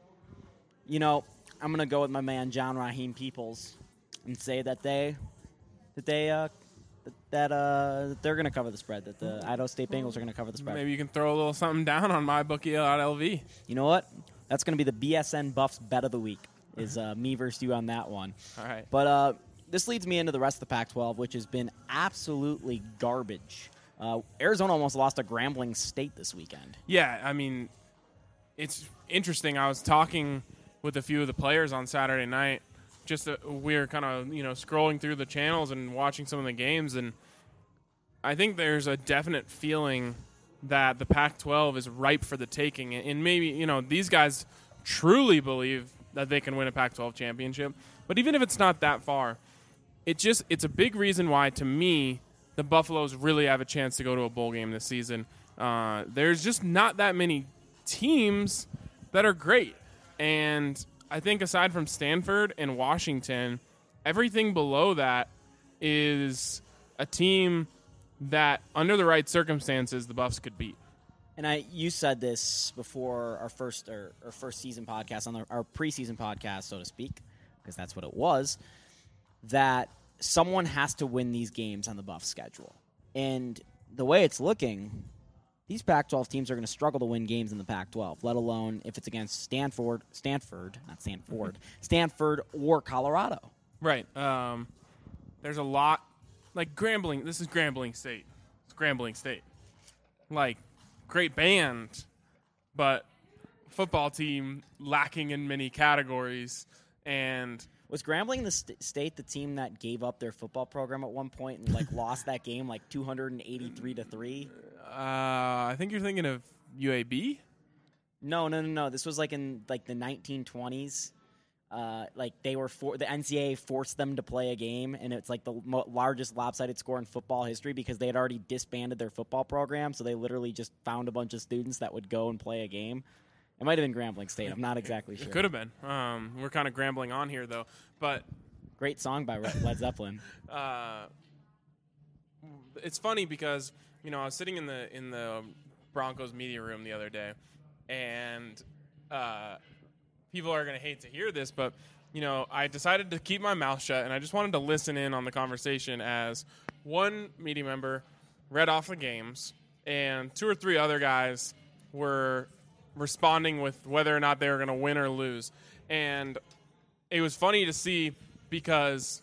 You know, I'm gonna go with my man John Raheem Peoples and say that they that they uh, that uh, they're gonna cover the spread. That the Idaho State Bengals are gonna cover the spread. Maybe you can throw a little something down on my bookie dot L V. You know what? That's gonna be the B S N Buffs bet of the week. Is uh, me versus you on that one. All right. But uh, this leads me into the rest of the Pac twelve, which has been absolutely garbage. Uh, Arizona almost lost to Grambling State this weekend. Yeah, I mean, it's interesting. I was talking with a few of the players on Saturday night. Just uh, we were kind of you know scrolling through the channels and watching some of the games, and I think there's a definite feeling that the Pac twelve is ripe for the taking. And maybe you know these guys truly believe that they can win a Pac twelve championship. But even if it's not that far, it just it's a big reason why, to me, the Buffaloes really have a chance to go to a bowl game this season. Uh, there's just not that many teams that are great. And I think aside from Stanford and Washington, everything below that is a team that, under the right circumstances, the Buffs could beat. And I, you said this before our first or, our first season podcast, on the, our preseason podcast, so to speak, because that's what it was, that someone has to win these games on the Buff schedule. And the way it's looking, these Pac twelve teams are going to struggle to win games in the Pac twelve, let alone if it's against Stanford, Stanford, not Stanford, mm-hmm. Stanford or Colorado. Right. Um, there's a lot, like Grambling. This is Grambling State. It's Grambling State. Like, great band, but football team lacking in many categories. And was Grambling the st- state the team that gave up their football program at one point and like lost that game like two hundred eighty-three to three? Uh, I think you're thinking of U A B. No, no, no, no. This was like in like the nineteen twenties. Uh, like they were for the N C A A forced them to play a game, and it's like the mo- largest lopsided score in football history because they had already disbanded their football program. So they literally just found a bunch of students that would go and play a game. It might have been Grambling State. I'm not exactly sure. It could have been. Um, we're kind of grambling on here though, but great song by Led Zeppelin. uh, it's funny because you know I was sitting in the in the Broncos media room the other day, and. Uh, People are going to hate to hear this, but, you know, I decided to keep my mouth shut, and I just wanted to listen in on the conversation as one media member read off the games, and two or three other guys were responding with whether or not they were going to win or lose. And it was funny to see because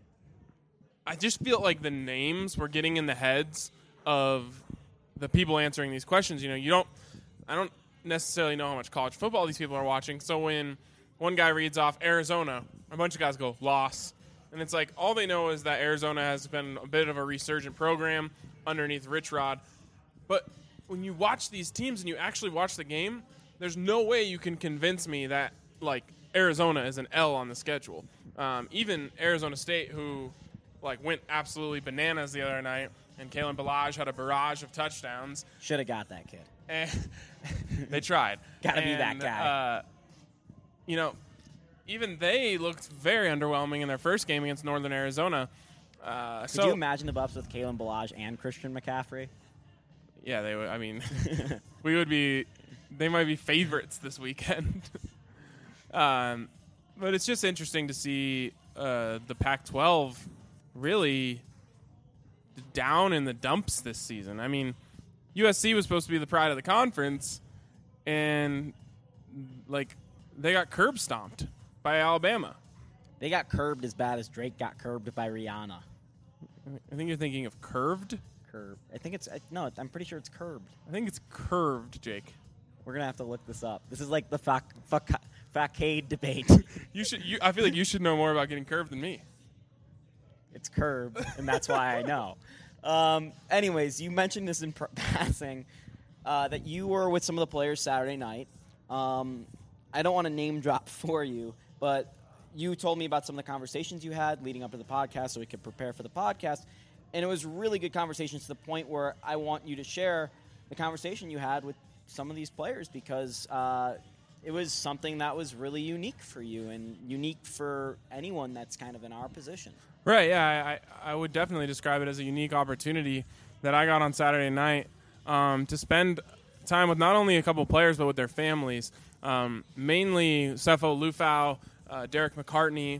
I just feel like the names were getting in the heads of the people answering these questions. You know, you don't – I don't – necessarily know how much college football these people are watching. So when one guy reads off Arizona, a bunch of guys go, loss. And it's like all they know is that Arizona has been a bit of a resurgent program underneath Rich Rod. But when you watch these teams and you actually watch the game, there's no way you can convince me that, like, Arizona is an L on the schedule. Um, even Arizona State, who, like, went absolutely bananas the other night, and Kalen Ballage had a barrage of touchdowns. Should have got that kid. And they tried. Gotta and, be that guy. Uh, you know, even they looked very underwhelming in their first game against Northern Arizona. Uh, Could so, you imagine the Buffs with Kalen Ballage and Christian McCaffrey? Yeah, they would. I mean, we would be. They might be favorites this weekend. um, but it's just interesting to see uh, the Pac twelve really down in the dumps this season. I mean, U S C was supposed to be the pride of the conference, and like they got curb stomped by Alabama. They got curbed as bad as Drake got curbed by Rihanna. I think you're thinking of curved. Curb. I think it's no. I'm pretty sure it's curbed. I think it's curved, Jake. We're gonna have to look this up. This is like the fac fac facade debate. You should. You, I feel like you should know more about getting curved than me. It's curb, and that's why I know. Um, anyways, you mentioned this in pr- passing uh, that you were with some of the players Saturday night. Um, I don't want to name drop for you, but you told me about some of the conversations you had leading up to the podcast so we could prepare for the podcast. And it was really good conversations to the point where I want you to share the conversation you had with some of these players because uh, it was something that was really unique for you and unique for anyone that's kind of in our position. Right, yeah, I, I would definitely describe it as a unique opportunity that I got on Saturday night um, to spend time with not only a couple players but with their families, um, mainly Sefo Liufau, uh, Derek McCartney,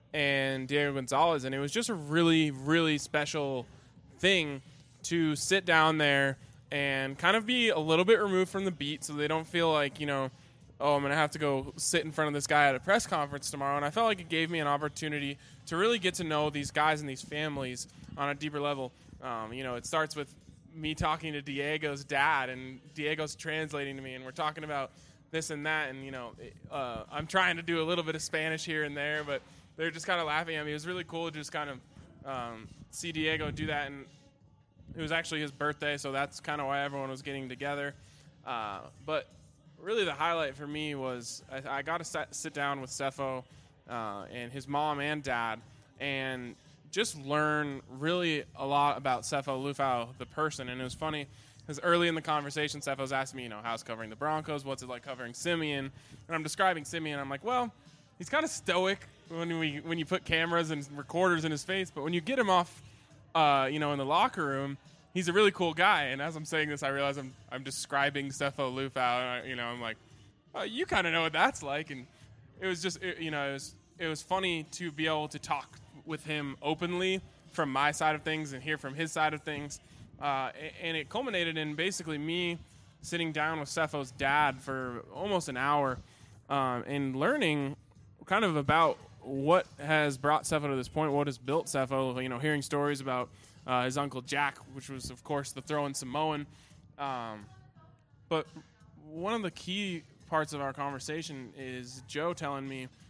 and Diego Gonzalez, and it was just a really, really special thing to sit down there and kind of be a little bit removed from the beat so they don't feel like, you know, oh, I'm going to have to go sit in front of this guy at a press conference tomorrow. And I felt like it gave me an opportunity to really get to know these guys and these families on a deeper level. Um, you know, it starts with me talking to Diego's dad, and Diego's translating to me, and we're talking about this and that. And, you know, uh, I'm trying to do a little bit of Spanish here and there, but they're just kind of laughing at me. It was really cool to just kind of um, see Diego do that. And it was actually his birthday, so that's kind of why everyone was getting together. Uh, but really the highlight for me was I, I got to sit, sit down with Sefo uh, and his mom and dad and just learn really a lot about Sefo Liufau, the person. And it was funny because early in the conversation, Sefo was asking me, you know, how's covering the Broncos? What's it like covering Simeon? And I'm describing Simeon. I'm like, well, he's kind of stoic when we when you put cameras and recorders in his face, but when you get him off, uh, you know, in the locker room, he's a really cool guy. And as I'm saying this, I realize I'm I'm describing Sefo Liufau. And I, you know, I'm like, oh, you kind of know what that's like. And it was just, it, you know, it was it was funny to be able to talk with him openly from my side of things and hear from his side of things. Uh, and it culminated in basically me sitting down with Sefo's dad for almost an hour um, and learning kind of about what has brought Sefo to this point, what has built Sefo, you know, hearing stories about uh, his uncle Jack, which was, of course, the throwing Samoan. Um, but one of the key parts of our conversation is Joe telling me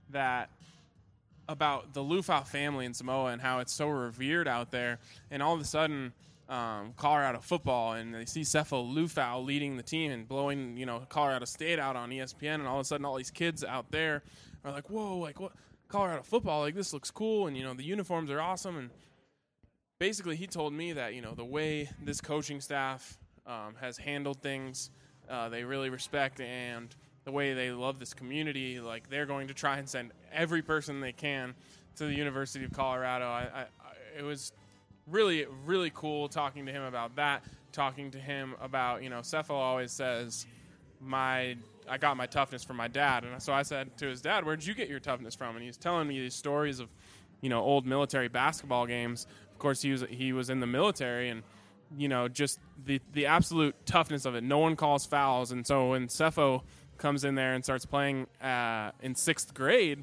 that about the Lufau family in Samoa and how it's so revered out there. And all of a sudden, um, Colorado football, and they see Sefo Lufau leading the team and blowing, you know, Colorado State out on E S P N, and all of a sudden all these kids out there are like, whoa, like what? Colorado football, like this looks cool, and, you know, the uniforms are awesome. And basically he told me that, you know, the way this coaching staff um, has handled things, uh, they really respect, and the way they love this community, like they're going to try and send every person they can to the University of Colorado. I, I, I, it was really, really cool talking to him about that, talking to him about, you know, Sefo always says, my I got my toughness from my dad. And so I said to his dad, where'd you get your toughness from? And he's telling me these stories of, you know, old military basketball games. Of course, he was he was in the military, and, you know, just the, the absolute toughness of it. No one calls fouls. And so when Sefo comes in there and starts playing uh, in sixth grade,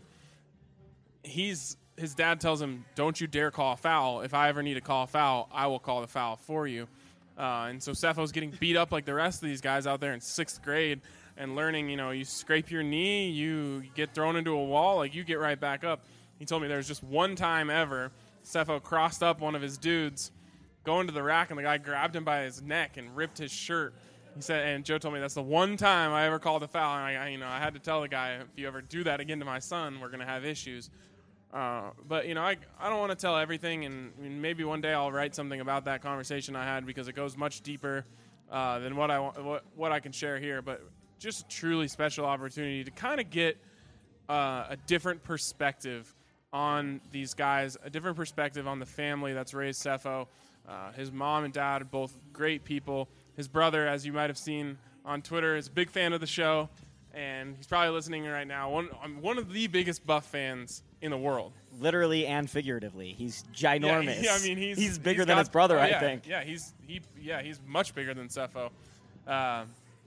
he's his dad tells him, don't you dare call a foul. If I ever need to call a foul, I will call the foul for you. Uh, and so Sefo's getting beat up like the rest of these guys out there in sixth grade and learning, you know, you scrape your knee, you get thrown into a wall, like you get right back up. He told me there was just one time ever Sefo crossed up one of his dudes going to the rack, and the guy grabbed him by his neck and ripped his shirt. He said, and Joe told me that's the one time I ever called a foul. And I, I you know, I had to tell the guy, if you ever do that again to my son, we're going to have issues. Uh, but, you know, I, I don't want to tell everything, and I mean, maybe one day I'll write something about that conversation I had, because it goes much deeper uh, than what I, what, what I can share here. But just a truly special opportunity to kind of get uh, a different perspective on these guys, a different perspective on the family that's raised Sefo. Uh, his mom and dad are both great people. His brother, as you might have seen on Twitter, is a big fan of the show, and he's probably listening right now. One, I'm one of the biggest Buff fans in the world. Literally and figuratively. He's ginormous. Yeah, I mean, he's he's bigger he's than got, his brother, oh, yeah, I think. Yeah, he's he yeah he's much bigger than Sefo. Uh,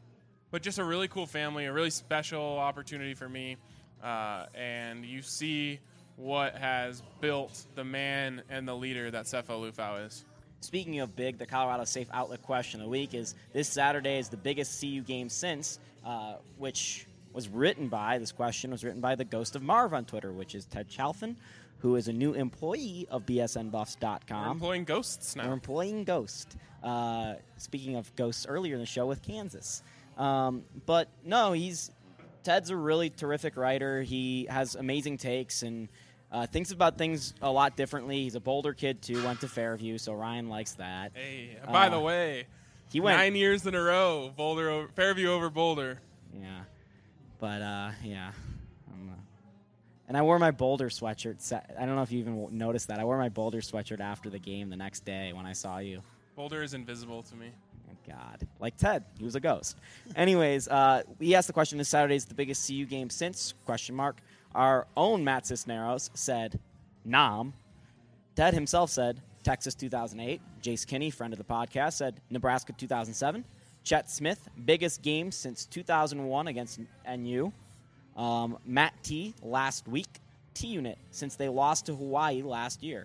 but just a really cool family, a really special opportunity for me, uh, and you see what has built the man and the leader that Sefo Lufau is. Speaking of big, the Colorado Safe Outlet question of the week is, this Saturday is the biggest C U game since, uh, which was written by, this question was written by the Ghost of Marv on Twitter, which is Ted Chalfin, who is a new employee of B S N Buffs dot com. We're employing ghosts now. We're employing Ghost. Uh, speaking of ghosts, earlier in the show with Kansas. Um, but, no, he's Ted's a really terrific writer. He has amazing takes and Uh, thinks about things a lot differently. He's a Boulder kid, too, went to Fairview, so Ryan likes that. Hey, by uh, the way, he went nine years in a row, Boulder over, Fairview over Boulder. Yeah. But, uh, yeah. I'm, uh, and I wore my Boulder sweatshirt. Sa- I don't know if you even noticed that. I wore my Boulder sweatshirt after the game the next day when I saw you. Boulder is invisible to me. Oh, God. Like Ted. He was a ghost. Anyways, uh, we asked the question, is Saturday's the biggest C U game since? Question mark. Our own Matt Cisneros said, Nam. Ted himself said, Texas two thousand eight. Jace Kinney, friend of the podcast, said Nebraska two thousand seven. Chet Smith, biggest game since two thousand one against N U. Um, Matt T, last week. T-Unit, since they lost to Hawaii last year.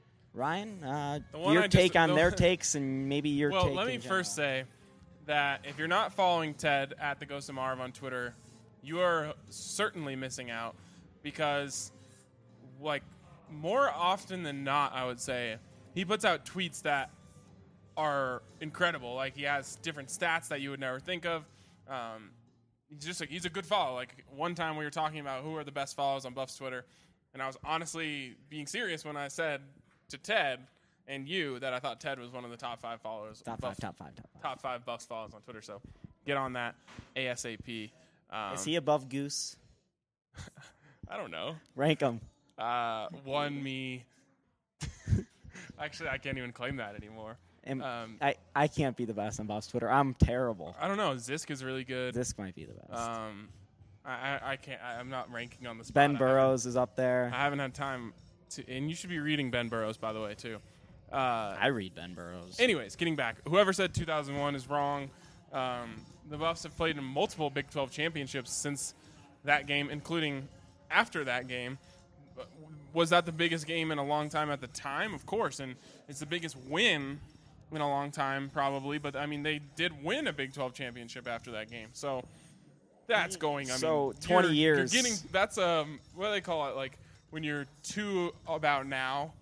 Ryan, uh, your I take just, on the their takes and maybe your well, take let me in first general. say that if you're not following Ted at the Ghost of Marv on Twitter, you are certainly missing out, because, like, more often than not, I would say, he puts out tweets that are incredible. Like, he has different stats that you would never think of. Um, he's just like, he's a good follow. Like, one time we were talking about who are the best follows on Buffs Twitter, and I was honestly being serious when I said to Ted and you that I thought Ted was one of the top five followers. Top Buff, five, top five, top five. Top five Buffs follows on Twitter, so get on that ASAP. Um, Is he above Goose? I don't know. Rank him. Uh, one me. Actually, I can't even claim that anymore. And Um, I, I can't be the best on Buffs Twitter. I'm terrible. I don't know. Zisk is really good. This might be the best. Um, I, I, I can't. I, I'm not ranking on the spot. Ben I Burrows is up haven't, there. I haven't had time to, and you should be reading Ben Burrows, by the way, too. Uh, I read Ben Burrows. anyways, getting back, whoever said two thousand one is wrong. Um, the Buffs have played in multiple Big twelve championships since that game, including after that game. Was that the biggest game in a long time at the time? Of course, and it's the biggest win in a long time, probably. But, I mean, they did win a Big twelve championship after that game. So That's going. I so mean, twenty you're, years. You're getting that's um what do they call it? Like when you're two about now.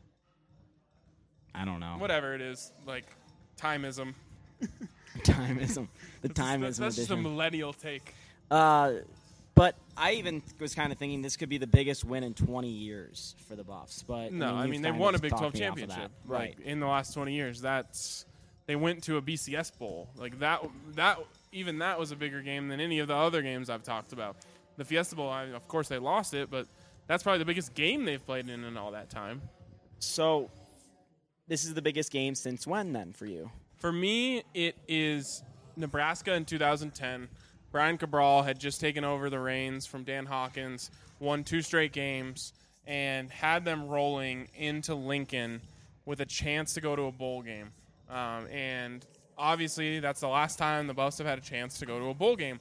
I don't know. Whatever it is, like timeism. Timeism. The That's, timeism that's, that's just a edition. millennial take. Uh, but I even was kind of thinking this could be the biggest win in twenty years for the Buffs. But No, I mean, I you've mean they kind won of a Big talked twelve me off of championship, that. Right? Like, in the last twenty years. That's they went to a B C S bowl. Like that. That even that was a bigger game than any of the other games I've talked about. The Fiesta Bowl, I, of course, they lost it, but that's probably the biggest game they've played in in all that time. So this is the biggest game since when then for you? For me, it is Nebraska in two thousand ten. Brian Cabral had just taken over the reins from Dan Hawkins, won two straight games, and had them rolling into Lincoln with a chance to go to a bowl game. Um, and obviously, that's the last time the Buffs have had a chance to go to a bowl game.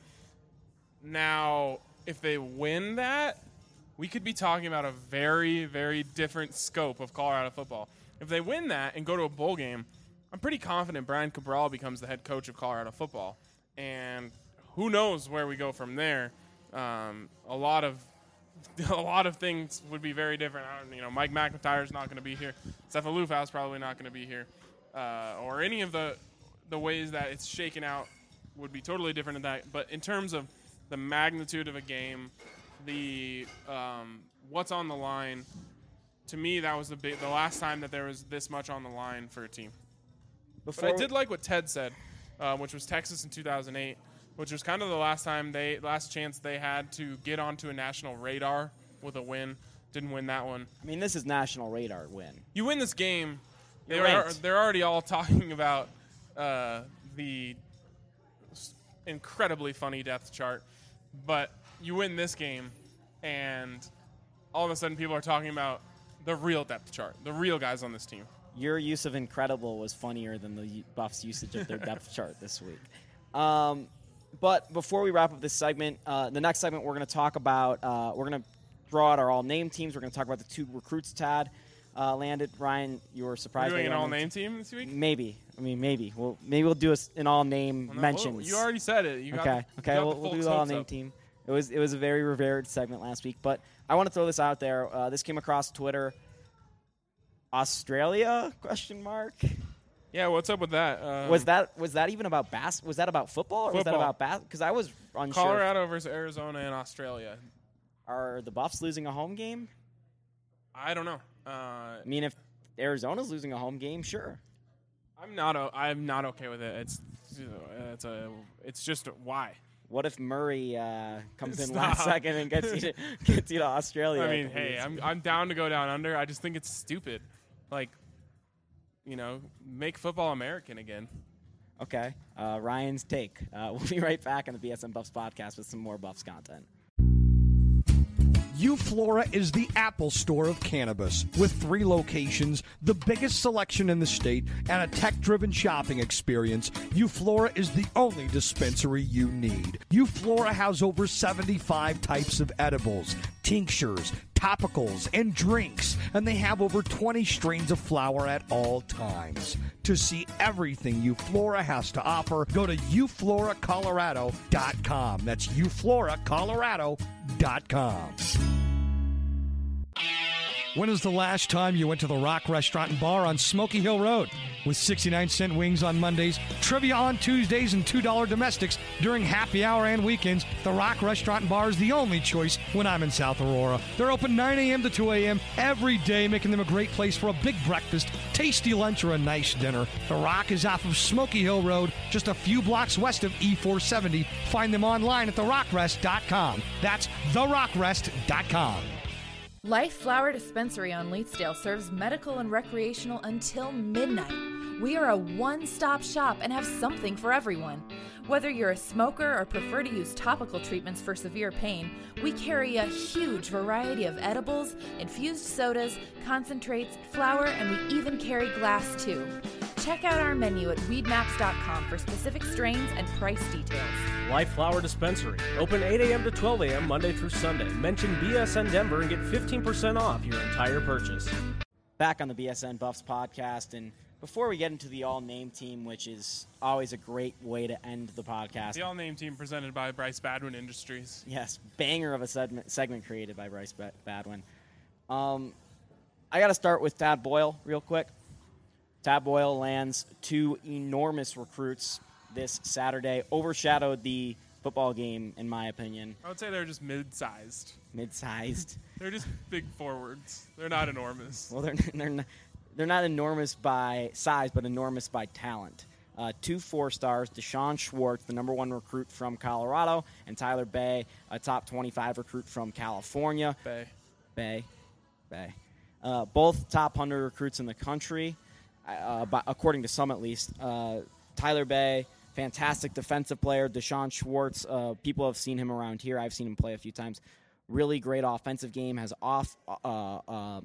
Now, if they win that, we could be talking about a very, very different scope of Colorado football. If they win that and go to a bowl game, I'm pretty confident Brian Cabral becomes the head coach of Colorado football. And who knows where we go from there. Um, a lot of a lot of things would be very different. I don't, you know, Mike McIntyre's not going to be here. Stefan Lufau's probably not going to be here. Uh, or any of the the ways that it's shaken out would be totally different in that. But in terms of the magnitude of a game, the um, what's on the line, to me, that was the big, the last time that there was this much on the line for a team. Before But I did like what Ted said, uh, which was Texas in two thousand eight, which was kind of the last time they, last chance they had to get onto a national radar with a win. Didn't win that one. I mean, this is national radar win. You win this game, You're they're, ranked. they're already all talking about uh, the incredibly funny depth chart, but you win this game, and all of a sudden people are talking about the real depth chart, the real guys on this team. Your use of incredible was funnier than the Buffs' usage of their depth chart this week. Um, but before we wrap up this segment, uh, the next segment we're going to talk about, uh, we're going to throw out our all-name teams. We're going to talk about the two recruits Tad uh, landed. Ryan, you were surprised. Are you doing by an the all-name team this week? Maybe. I mean, maybe. Well, maybe we'll do a, an all-name Well, no, mentions. well, you already said it. You got okay. the, Okay. you got We'll, the we'll do folks' the hopes all-name up. team. It was it was a very revered segment last week, but I want to throw this out there. Uh, this came across Twitter. Australia? Question mark. Yeah, what's up with that? Um, Was that was that even about bas? Was that about football or was that Football. about bas? Because I was unsure. Colorado versus Arizona and Australia? Are the Buffs losing a home game? I don't know. Uh, I mean, if Arizona's losing a home game, sure. I'm not. O- I'm not okay with it. It's it's a. It's just a, why. What if Murray uh, comes in Stop. last second and gets you to, gets you to Australia? I at mean, the hey, least? I'm I'm down to go down under. I just think it's stupid. Like, you know, make football American again. Okay. Uh, Ryan's take. Uh, we'll be right back on the B S N Buffs podcast with some more Buffs content. Euflora is the Apple Store of cannabis. With three locations, the biggest selection in the state, and a tech-driven shopping experience, Euflora is the only dispensary you need. Euflora has over seventy-five types of edibles, tinctures, topicals, and drinks, and they have over twenty strains of flower at all times. To see everything Euflora has to offer, go to eu flora colorado dot com. That's eu flora colorado dot com. When was the last time you went to the Rock Restaurant and Bar on Smoky Hill Road? With sixty-nine cent wings on Mondays, trivia on Tuesdays, and two dollar domestics during happy hour and weekends, the Rock Restaurant and Bar is the only choice when I'm in South Aurora. They're open nine a.m. to two a.m. every day, making them a great place for a big breakfast, tasty lunch, or a nice dinner. The Rock is off of Smoky Hill Road, just a few blocks west of E four seventy. Find them online at the rock rest dot com. That's the rock rest dot com. Life Flower Dispensary on Leetsdale serves medical and recreational until midnight. We are a one-stop shop and have something for everyone. Whether you're a smoker or prefer to use topical treatments for severe pain, we carry a huge variety of edibles, infused sodas, concentrates, flower, and we even carry glass too. Check out our menu at weed maps dot com for specific strains and price details. Life Flower Dispensary. Open eight a.m. to twelve a.m. Monday through Sunday. Mention B S N Denver and get fifteen percent off your entire purchase. Back on the B S N Buffs podcast, and before we get into the all-name team, which is always a great way to end the podcast. The all-name team presented by Bryce Badwin Industries. Yes, banger of a segment, segment created by Bryce ba- Badwin. Um, I got to start with Tad Boyle real quick. Tad Boyle lands two enormous recruits this Saturday, overshadowed the football game, in my opinion. I would say they're just mid-sized. Mid-sized. They're just big forwards. They're not enormous. Well, they're they're not, they're not enormous by size, but enormous by talent. Uh, two four stars: Deshaun Schwartz, the number one recruit from Colorado, and Tyler Bay, a top twenty-five recruit from California. Bay. Bay. Bay. Uh, both top one hundred recruits in the country, uh, by, according to some at least. Uh, Tyler Bay, fantastic defensive player. Deshaun Schwartz, uh, people have seen him around here. I've seen him play a few times. Really great offensive game, has off, uh, uh,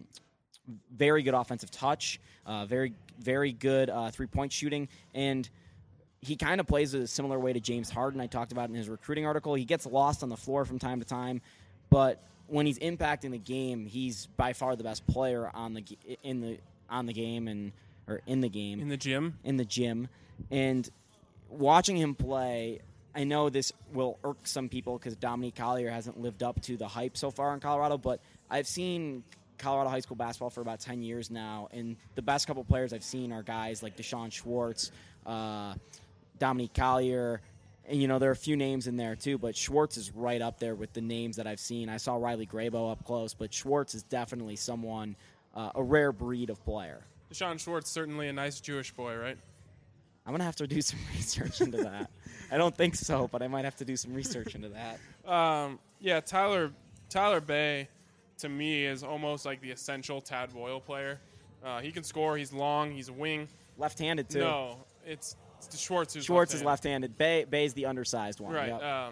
very good offensive touch, uh, very, very good uh, three-point shooting, and he kind of plays a similar way to James Harden. I talked about in his recruiting article. He gets lost on the floor from time to time, but when he's impacting the game, he's by far the best player on the in the on the game and or in the game In the gym? in the gym. And watching him play, I know this will irk some people because Dominique Collier hasn't lived up to the hype so far in Colorado, but I've seen Colorado high school basketball for about ten years now, and the best couple players I've seen are guys like Deshaun Schwartz, uh, Dominique Collier, and, you know, there are a few names in there too, but Schwartz is right up there with the names that I've seen. I saw Riley Grabo up close, but Schwartz is definitely someone, uh, a rare breed of player. Deshaun Schwartz, certainly a nice Jewish boy, right? I'm going to have to do some research into that. I don't think so, but I might have to do some research into that. Um, yeah, Tyler Tyler Bay, to me, is almost like the essential Tad Boyle player. Uh, he can score. He's long. He's a wing. Left-handed, too. No, it's, it's Schwartz who's Schwartz left-handed. is left-handed. Bay Bay's the undersized one. Right. Yep. Um,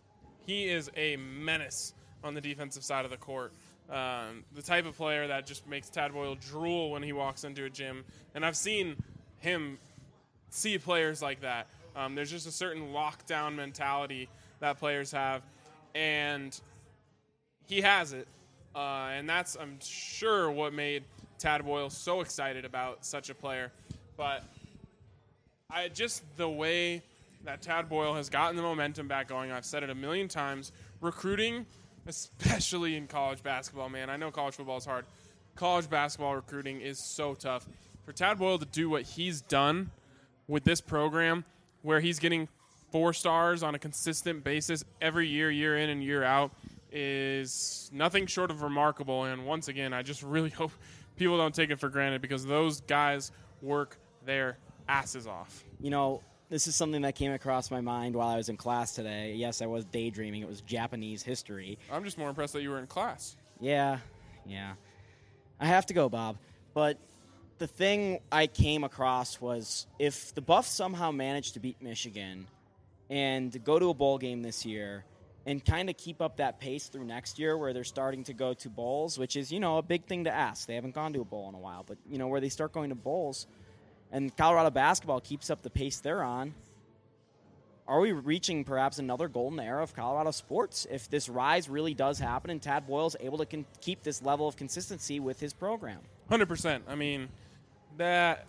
he is a menace on the defensive side of the court. Um, the type of player that just makes Tad Boyle drool when he walks into a gym. And I've seen him see players like that. Um, there's just a certain lockdown mentality that players have, and he has it. Uh, and that's, I'm sure, what made Tad Boyle so excited about such a player. But I just the way that Tad Boyle has gotten the momentum back going, I've said it a million times, recruiting, especially in college basketball, man. I know college football is hard. College basketball recruiting is so tough. For Tad Boyle to do what he's done with this program, where he's getting four stars on a consistent basis every year, year in and year out, is nothing short of remarkable. And once again, I just really hope people don't take it for granted, because those guys work their asses off. You know, this is something that came across my mind while I was in class today. Yes, I was daydreaming. It was Japanese history. I'm just more impressed that you were in class. Yeah, yeah. I have to go, Bob. But the thing I came across was if the Buffs somehow managed to beat Michigan and go to a bowl game this year and kind of keep up that pace through next year where they're starting to go to bowls, which is, you know, a big thing to ask. They haven't gone to a bowl in a while. But, you know, where they start going to bowls and Colorado basketball keeps up the pace they're on, are we reaching perhaps another golden era of Colorado sports if this rise really does happen and Tad Boyle's able to con- keep this level of consistency with his program? one hundred percent. I mean, that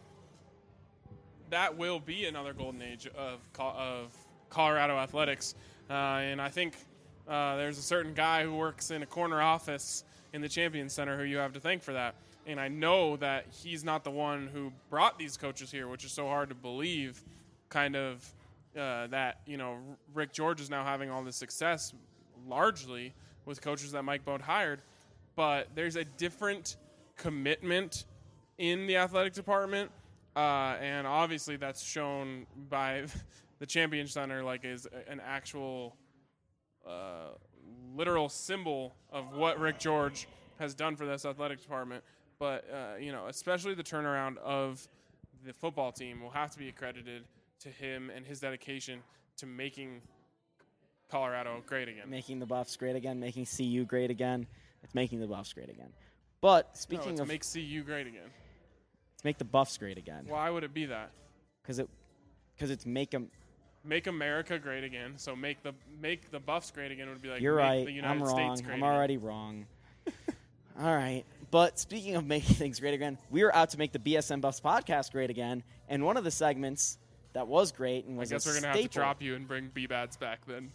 that will be another golden age of of Colorado athletics. Uh, and I think uh, there's a certain guy who works in a corner office in the Champions Center who you have to thank for that. And I know that he's not the one who brought these coaches here, which is so hard to believe, kind of, uh, that, you know, Rick George is now having all this success largely with coaches that Mike Boat hired. But there's a different commitment in the athletic department, uh, and obviously that's shown by the Champions Center, like, is an actual uh, literal symbol of what Rick George has done for this athletic department. But, uh, you know, especially the turnaround of the football team will have to be accredited to him and his dedication to making Colorado great again. Making the Buffs great again, making C U great again. It's making the Buffs great again. But speaking no, it's of make C U great again. It's make the Buffs great again. Why would it be that? Because it, because it's make them. Make America great again. So make the make the Buffs great again would be like You're make right. the United I'm wrong. States great I'm again. already wrong. All right, But speaking of making things great again, we are out to make the B S N Buffs podcast great again. And one of the segments that was great and was I guess a we're gonna staple, have to drop you and bring B-Bads back then.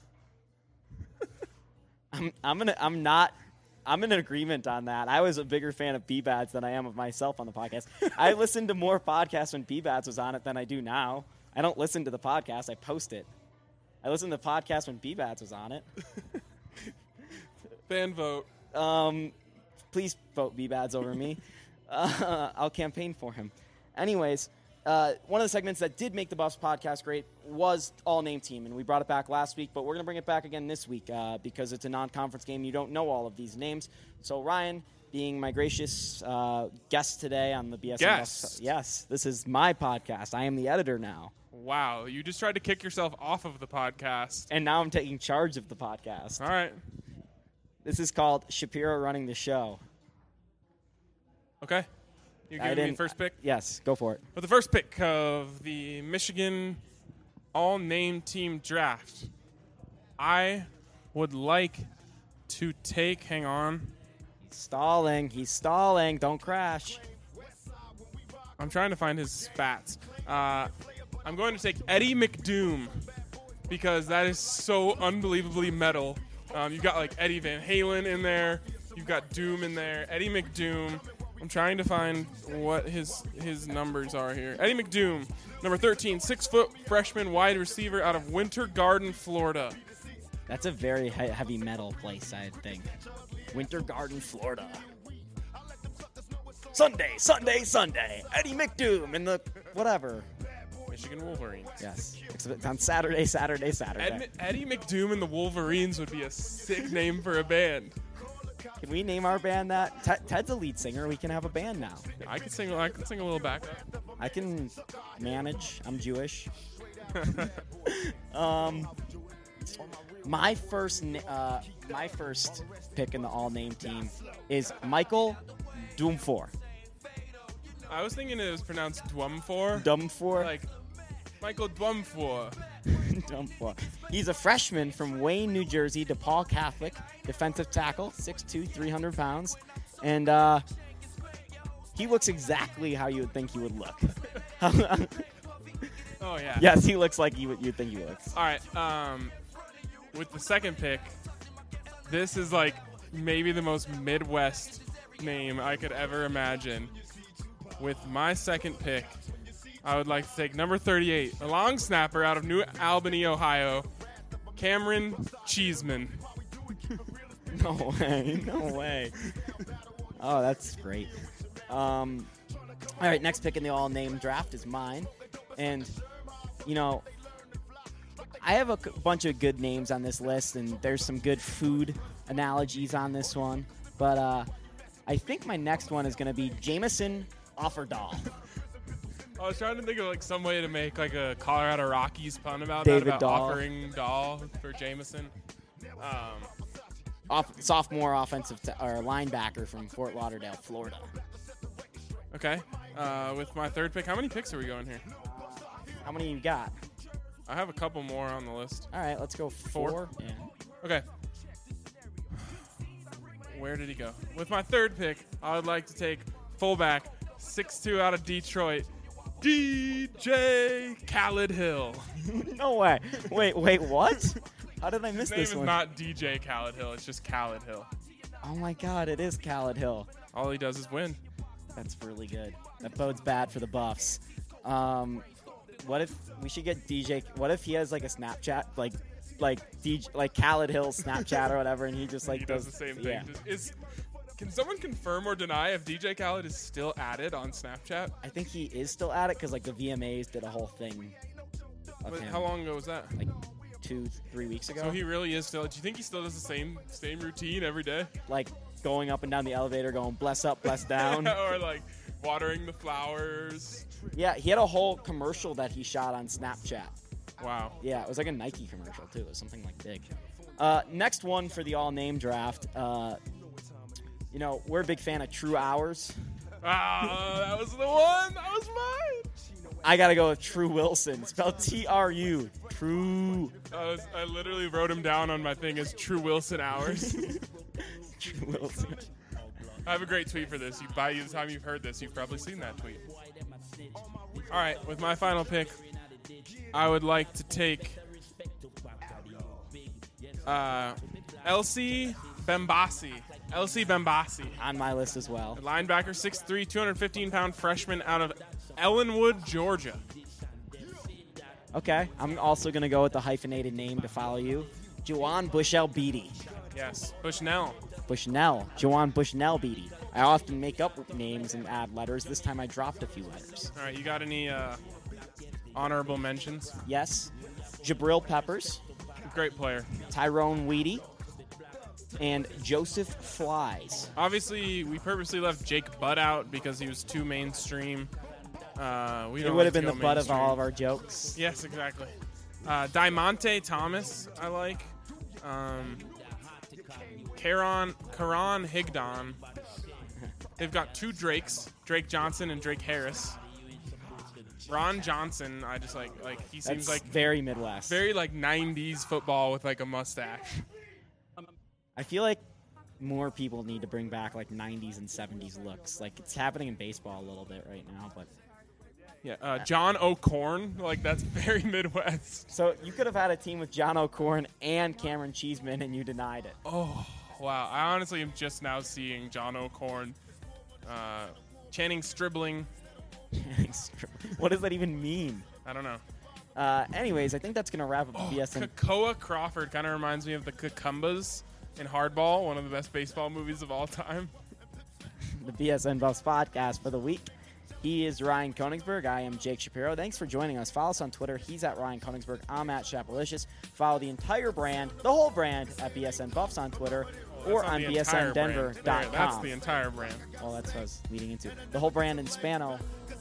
I'm, I'm gonna. I'm not. I'm in agreement on that. I was a bigger fan of B-Bads than I am of myself on the podcast. I listened to more podcasts when B-Bads was on it than I do now. I don't listen to the podcast. I post it. I listened to the podcast when B-Bads was on it. Fan vote. Um, please vote B-Bads over me. Uh, I'll campaign for him. Anyways, uh, one of the segments that did make the Buffs podcast great was all-name team, and we brought it back last week, but we're going to bring it back again this week uh, because it's a non-conference game. You don't know all of these names. So, Ryan, being my gracious uh, guest today on the B S N Guest? Buffs. Yes, this is my podcast. I am the editor now. Wow, you just tried to kick yourself off of the podcast. And now I'm taking charge of the podcast. All right. This is called Shapiro Running the Show. Okay. You're I giving me the didn't- first pick? Yes, go for it. With the first pick of the Michigan all-name team draft, I would like to take, hang on, Stalling. He's stalling. Don't crash. I'm trying to find his spats. Uh, I'm going to take Eddie McDoom because that is so unbelievably metal. Um, you've got like Eddie Van Halen in there. You've got Doom in there. Eddie McDoom. I'm trying to find what his his numbers are here. Eddie McDoom, number thirteen, six foot freshman wide receiver out of Winter Garden, Florida. That's a very he- heavy metal place, I think. Winter Garden, Florida. Sunday, Sunday, Sunday. Eddie McDoom in the whatever. Michigan Wolverines. Yes. Except it's on Saturday, Saturday, Saturday. Ed, Eddie McDoom and the Wolverines would be a sick name for a band. Can we name our band that? Ted, Ted's a lead singer. We can have a band now. I could sing. I could sing a little backup. I can manage. I'm Jewish. um, my first, na- uh, my first pick in the all-name team is Michael Dumfor. I was thinking it was pronounced Dwumfor. Dumfor. Like Michael Dwumfor. Dumfor. He's a freshman from Wayne, New Jersey, DePaul Catholic, defensive tackle, six two, three hundred pounds, and uh, he looks exactly how you would think he would look. Oh yeah. Yes, he looks like you would you'd think he looks. All right. Um, with the second pick, this is like maybe the most Midwest name I could ever imagine. With my second pick, I would like to take number thirty-eight, a long snapper out of New Albany, Ohio, Cameron Cheeseman. No way, no way. Oh, that's great. Um, all right, next pick in the all-name draft is mine, and you know, I have a c- bunch of good names on this list, and there's some good food analogies on this one, but uh, I think my next one is going to be Jameson Offerdahl. I was trying to think of like some way to make like a Colorado Rockies pun about David that, about Dahl. offering Dahl for Jameson. Um, Off- sophomore offensive t- or linebacker from Fort Lauderdale, Florida. okay. Uh, with my third pick, how many picks are we going here? How many you got? I have a couple more on the list. All right, let's go four. Four? Yeah. Okay. Where did he go? With my third pick, I would like to take fullback, six two out of Detroit, D J Khaled Hill. No way. Wait, wait, what? How did I miss His name this is one? not D J Khaled Hill. It's just Khaled Hill. Oh my God, it is Khaled Hill. All he does is win. That's really good. That bodes bad for the Buffs. Um, what if we should get D J? What if he has like a Snapchat, like, like D J, like Khaled Hill's Snapchat or whatever, and he just like he does the same thing. Yeah. Just- Is can someone confirm or deny if D J Khaled is still added on Snapchat? I think he is still at it because like the V M As did a whole thing. Of But him, how long ago was that? Like two, three weeks ago. So he really is still. Do you think he still does the same same routine every day? like going up and down the elevator, going bless up, bless down. or like watering the flowers? Yeah, he had a whole commercial that he shot on Snapchat. Wow. Yeah, it was like a Nike commercial too. It was something like big. Uh, next one for the all-name draft. Uh, you know, we're a big fan of True Hours. Ah, that was the one. That was mine. I gotta go with True Wilson, spelled T R U. True. I, was, I literally wrote him down on my thing as True Wilson Hours. True Wilson. I have a great tweet for this. You, by the time you've heard this, you've probably seen that tweet. All right, with my final pick, I would like to take uh, Elsie Bembasi. Elsie Bembasi. On my list as well. Linebacker, six three, two hundred fifteen pound freshman out of Ellenwood, Georgia. Okay, I'm also going to go with the hyphenated name to follow you. Juwan Bushell Beatty. Yes, Bushnell. Bushnell. Juwan Bushnell Beatty. I often make up names and add letters. This time I dropped a few letters. All right, you got any uh, honorable mentions? Yes. Jabril Peppers. Great player. Tyrone Weedy. And Joseph Flies. Obviously, we purposely left Jake Butt out because he was too mainstream. Uh, we it don't would have like been to the go butt of mainstream. all of our jokes. Yes, exactly. Uh, Diamante Thomas, I like. Um, Karon, Karan Higdon. They've got two Drakes, Drake Johnson and Drake Harris. Ron Johnson, I just like, like he seems That's like very Midwest. very like nineties football with like a mustache. I feel like more people need to bring back like nineties and seventies looks. Like it's happening in baseball a little bit right now, but Yeah, uh, John O'Corn, like that's very Midwest. so you could have had a team with John O'Corn and Cameron Cheeseman, and you denied it. Oh, wow. I honestly am just now seeing John O'Corn, uh, Channing Stribling. What does that even mean? I don't know. Uh, anyways, I think that's gonna wrap up Oh, B S N. Kakoa Crawford kind of reminds me of the Cucumbas in Hardball, one of the best baseball movies of all time. The B S N Buffs podcast for the week. He is Ryan Koenigsberg. I am Jake Shapiro. Thanks for joining us. Follow us on Twitter. He's at Ryan Koenigsberg. I'm at Shapalicious. Follow the entire brand, the whole brand, at B S N Buffs on Twitter or That's not on the B S N Denver entire brand. dot There, com. That's the entire brand. Well, that's what I was leading into. The whole brand in Spano.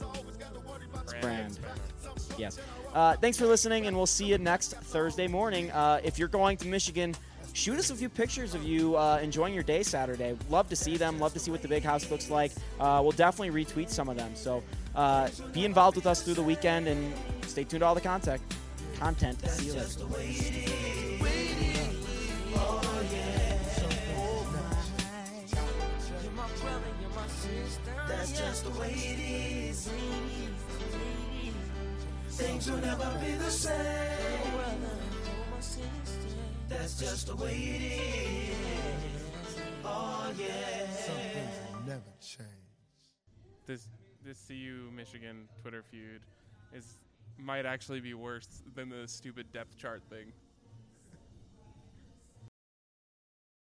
Brand. Yes. Uh, thanks for listening, and we'll see you next Thursday morning. Uh, if you're going to Michigan, shoot us a few pictures of you uh, enjoying your day Saturday. Love to see them. Love to see what the big house looks like. Uh, we'll definitely retweet some of them. So uh, be involved with us through the weekend, and stay tuned to all the content. Content. See you later. That's just the way it is. Things will never be the same. That's just the way it is. Oh yeah. Some things will never change. This this C U Michigan Twitter feud is might actually be worse than the stupid depth chart thing.